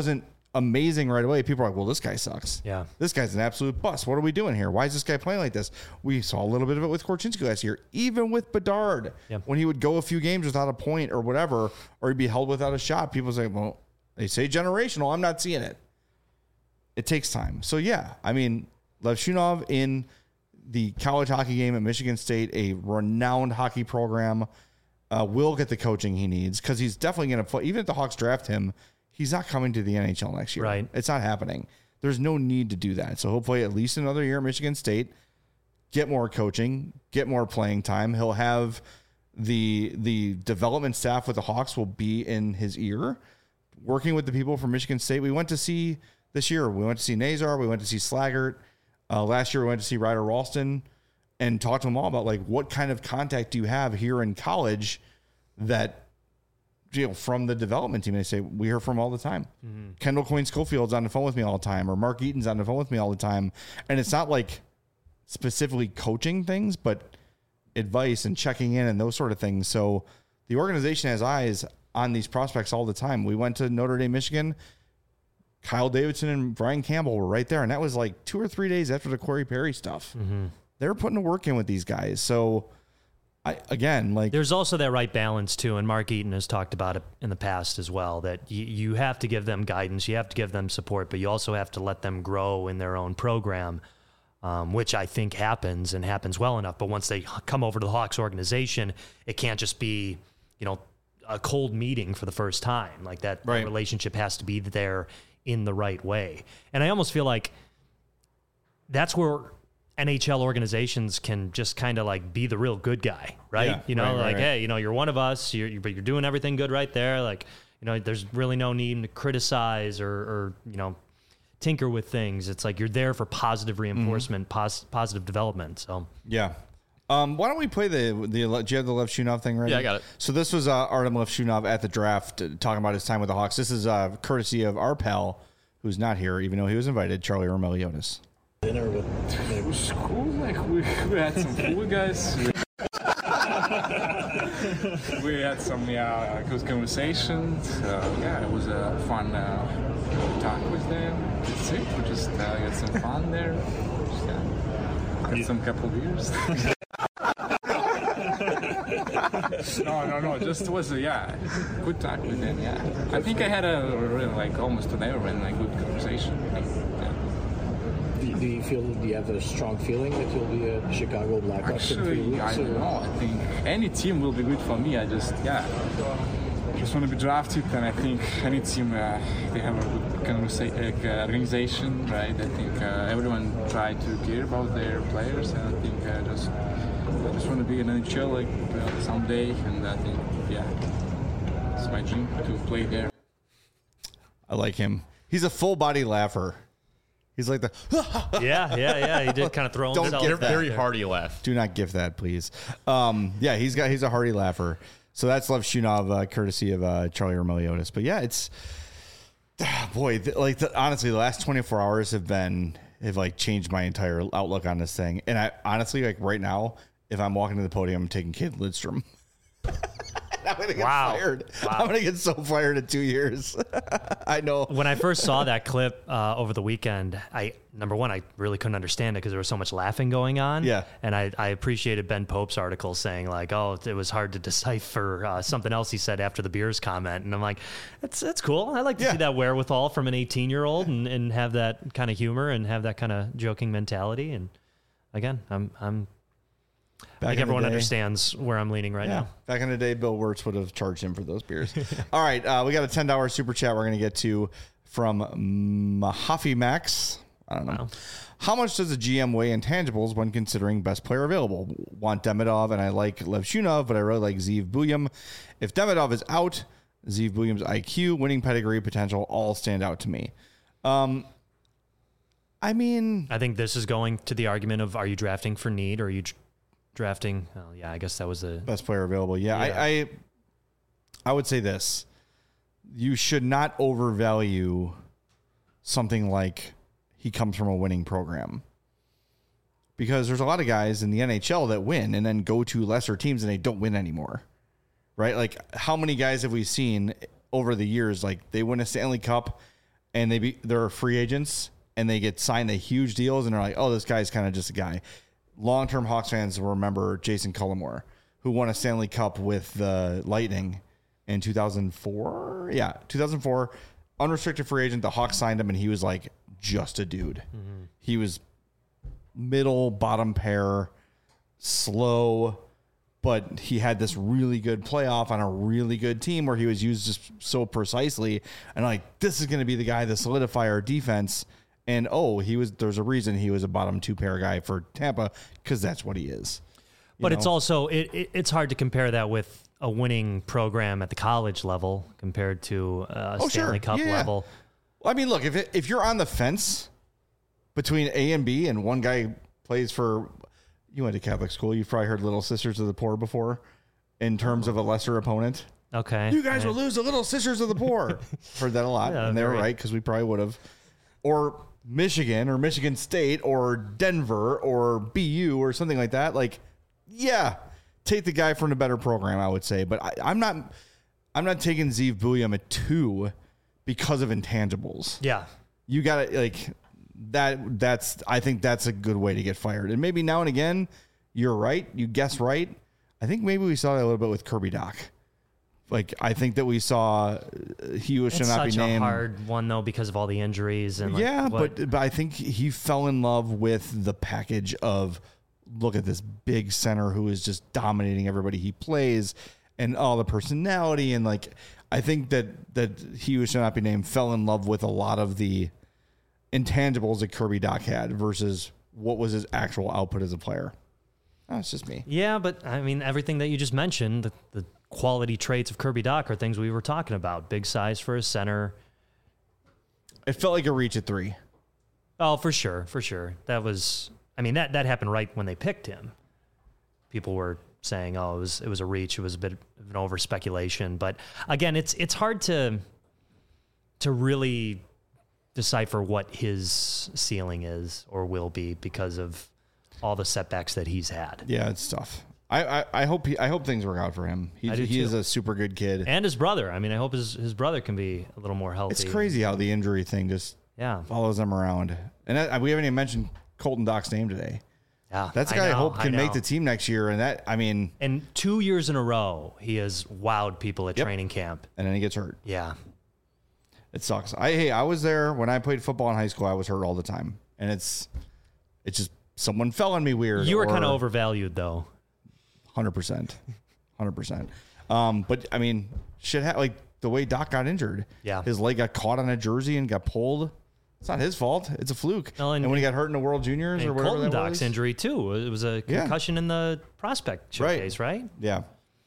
amazing right away, people are like, well, this guy sucks. Yeah. This guy's an absolute bust. What are we doing here? Why is this guy playing like this? We saw a little bit of it with Korchinski last year, even with Bedard. Yep. When he would go a few games without a point or whatever, or he'd be held without a shot, people say, well, they say generational. I'm not seeing it. It takes time. So, yeah, I mean, Levshunov in the college hockey game at Michigan State, a renowned hockey program, will get the coaching he needs because he's definitely going to play. Even if the Hawks draft him, he's not coming to the NHL next year. Right. It's not happening. There's no need to do that. So he'll play at least another year at Michigan State, get more coaching, get more playing time. He'll have the development staff with the Hawks will be in his ear, working with the people from Michigan State. We went to see this year. We went to see Nazar. We went to see Slaggert. Last year we went to see Ryder Ralston and talked to them all about like what kind of contact do you have here in college that from the development team. They say we hear from all the time. Mm-hmm. Kendall Coyne Schofield's on the phone with me all the time, or Mark Eaton's on the phone with me all the time. And it's not like specifically coaching things, but advice and checking in and those sort of things. So the organization has eyes on these prospects all the time. We went to Notre Dame, Michigan. Kyle Davidson and Brian Campbell were right there. And that was like 2 or 3 days after the Corey Perry stuff. Mm-hmm. They were putting the work in with these guys. So there's also that right balance too. And Mark Eaton has talked about it in the past as well, that you have to give them guidance. You have to give them support, but you also have to let them grow in their own program, which I think happens and happens well enough. But once they come over to the Hawks organization, it can't just be, a cold meeting for the first time. Like that relationship has to be there in the right way. And I almost feel like that's where NHL organizations can just kind of like be the real good guy, right? Yeah, hey, you're one of us, but you're doing everything good right there. Like, there's really no need to criticize or tinker with things. It's like you're there for positive reinforcement, positive development. So yeah. Why don't we play do you have the Levshunov thing ready? Yeah, I got it. So this was Artem Levshunov at the draft talking about his time with the Hawks. This is courtesy of our pal, who's not here, even though he was invited, Charlie Roumeliotis. Dinner with it was cool. Like we had some food, guys. We had some good conversations. It was a fun talk with them. That's it. We just had some fun there. Had some couple beers. No. Just was good talk with them. Yeah, I think I had almost an hour and a good conversation. Do you have a strong feeling that you'll be a Chicago Blackhawks in 3 weeks? I don't know. I think any team will be good for me. I just want to be drafted, and I think any team they have a good organization, right? I think everyone try to care about their players, and I think I just want to be in NHL someday, and I think it's my dream to play there. I like him. He's a full body laugher. He's like the yeah. He did kind of throw himself. Don't very hearty laugh. Do not gift that, please. He's a hearty laugher. So that's Levshunov, courtesy of Charlie Roumeliotis. But yeah, it's honestly, the last 24 hours have changed my entire outlook on this thing. And I honestly, right now, if I'm walking to the podium, I'm taking Kate Lidstrom. I'm going to get fired. Wow. I'm going to get so fired in 2 years. I know. When I first saw that clip over the weekend, I really couldn't understand it because there was so much laughing going on. Yeah. And I appreciated Ben Pope's article saying it was hard to decipher something else he said after the beers comment. And I'm like, that's cool. I like to see that wherewithal from an 18-year-old and have that kind of humor and have that kind of joking mentality. And again, I think everyone understands where I'm leaning right now. Back in the day, Bill Wirtz would have charged him for those beers. All right, we got a $10 super chat we're going to get to from Mahaffey Max. I don't know. Wow. How much does a GM weigh intangibles when considering best player available? Want Demidov, and I like Levshunov, but I really like Zeev Buium. If Demidov is out, Zeev Buium's IQ, winning pedigree, potential all stand out to me. I think this is going to the argument of, are you drafting for need or are you drafting? Oh, yeah, I guess that was the best player available. I would say this: you should not overvalue something like he comes from a winning program, because there's a lot of guys in the NHL that win and then go to lesser teams and they don't win anymore, right? Like, how many guys have we seen over the years? Like, they win a Stanley Cup and they're free agents and they get signed to huge deals and they're like, oh, this guy's kind of just a guy. Long-term Hawks fans will remember Jason Cullimore, who won a Stanley Cup with the Lightning in 2004. Yeah, 2004. Unrestricted free agent. The Hawks signed him, and he was like just a dude. Mm-hmm. He was middle, bottom pair, slow, but he had this really good playoff on a really good team where he was used just so precisely. And like, this is going to be the guy to solidify our defense. And there's a reason he was a bottom 2 pair guy for Tampa, because that's what he is. But it's also, it's hard to compare that with a winning program at the college level compared to a Stanley Cup level. Well, I mean, look, if you're on the fence between A and B and one guy plays for, you went to Catholic school, you've probably heard Little Sisters of the Poor before in terms of a lesser opponent. Okay. You guys will lose the Little Sisters of the Poor. Heard that a lot. And they were right, because we probably would have. Or Michigan or Michigan State or Denver or BU or something like that. Like, yeah, take the guy from a better program, I would say. But I'm not taking Zeev Buium at 2 because of intangibles. Yeah. You got to, like, I think that's a good way to get fired. And maybe now and again, you're right. You guess right. I think maybe we saw that a little bit with Kirby Dach. Like, I think that we saw he should not be named. It's such a hard one, though, because of all the injuries. And but I think he fell in love with the package of, look at this big center who is just dominating everybody he plays and all the personality. And, like, I think that he should not be named fell in love with a lot of the intangibles that Kirby Dach had versus what was his actual output as a player. That's just me. Yeah, but, I mean, everything that you just mentioned, the quality traits of Kirby Dach are things we were talking about. Big size for a center. It felt like a reach at 3. Oh, for sure. That was, I mean, that happened right when they picked him. People were saying, oh, it was a reach. It was a bit of an over speculation. But again, it's hard to really decipher what his ceiling is or will be because of all the setbacks that he's had. Yeah, it's tough. I hope things work out for him. He is a super good kid. And his brother. I mean, I hope his brother can be a little more healthy. It's crazy how the injury thing just follows them around. And we haven't even mentioned Colton Dach's name today. Yeah, that's a guy I hope can make the team next year. And that, I mean, and 2 years in a row, he has wowed people at training camp. And then he gets hurt. Yeah, it sucks. I was there when I played football in high school. I was hurt all the time, and it's just someone fell on me weird. You were kind of overvalued, though. 100%. But I mean, like the way Dach got injured. Yeah. His leg got caught on a jersey and got pulled. It's not his fault. It's a fluke. No, and when he got hurt in the World Juniors or whatever Colton Dach's injury too. It was a concussion in the prospect showcase, right? Yeah.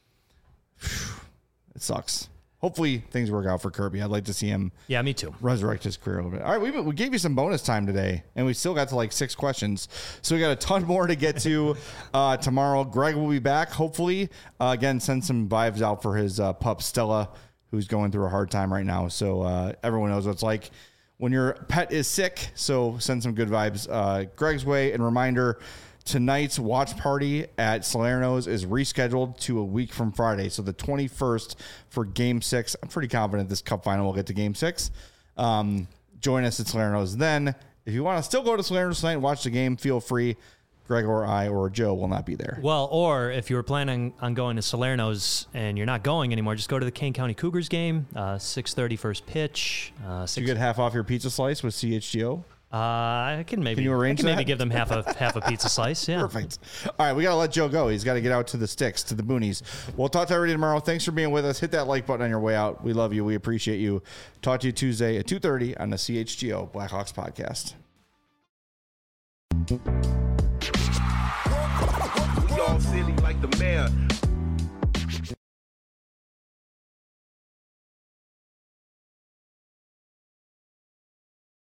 It sucks. Hopefully things work out for Kirby. I'd like to see him. Yeah, me too. Resurrect his career a little bit. All right, we gave you some bonus time today, and we still got to like 6 questions. So we got a ton more to get to tomorrow. Greg will be back, hopefully. Again, send some vibes out for his pup, Stella, who's going through a hard time right now. So everyone knows what it's like when your pet is sick. So send some good vibes Greg's way. And reminder, tonight's watch party at Salerno's is rescheduled to a week from Friday. So the 21st for Game 6. I'm pretty confident this Cup final will get to Game 6. Join us at Salerno's then. If you want to still go to Salerno's tonight and watch the game, feel free. Greg or I or Joe will not be there. Well, or if you were planning on going to Salerno's and you're not going anymore, just go to the Kane County Cougars game, 6:30 first pitch. You get half off your pizza slice with CHGO? I can maybe. Can you arrange that? Maybe give them half a pizza slice. Yeah. Perfect. All right, we gotta let Joe go. He's got to get out to the sticks, to the boonies. We'll talk to everybody tomorrow. Thanks for being with us. Hit that like button on your way out. We love you. We appreciate you. Talk to you Tuesday at 2:30 on the CHGO Blackhawks podcast. City.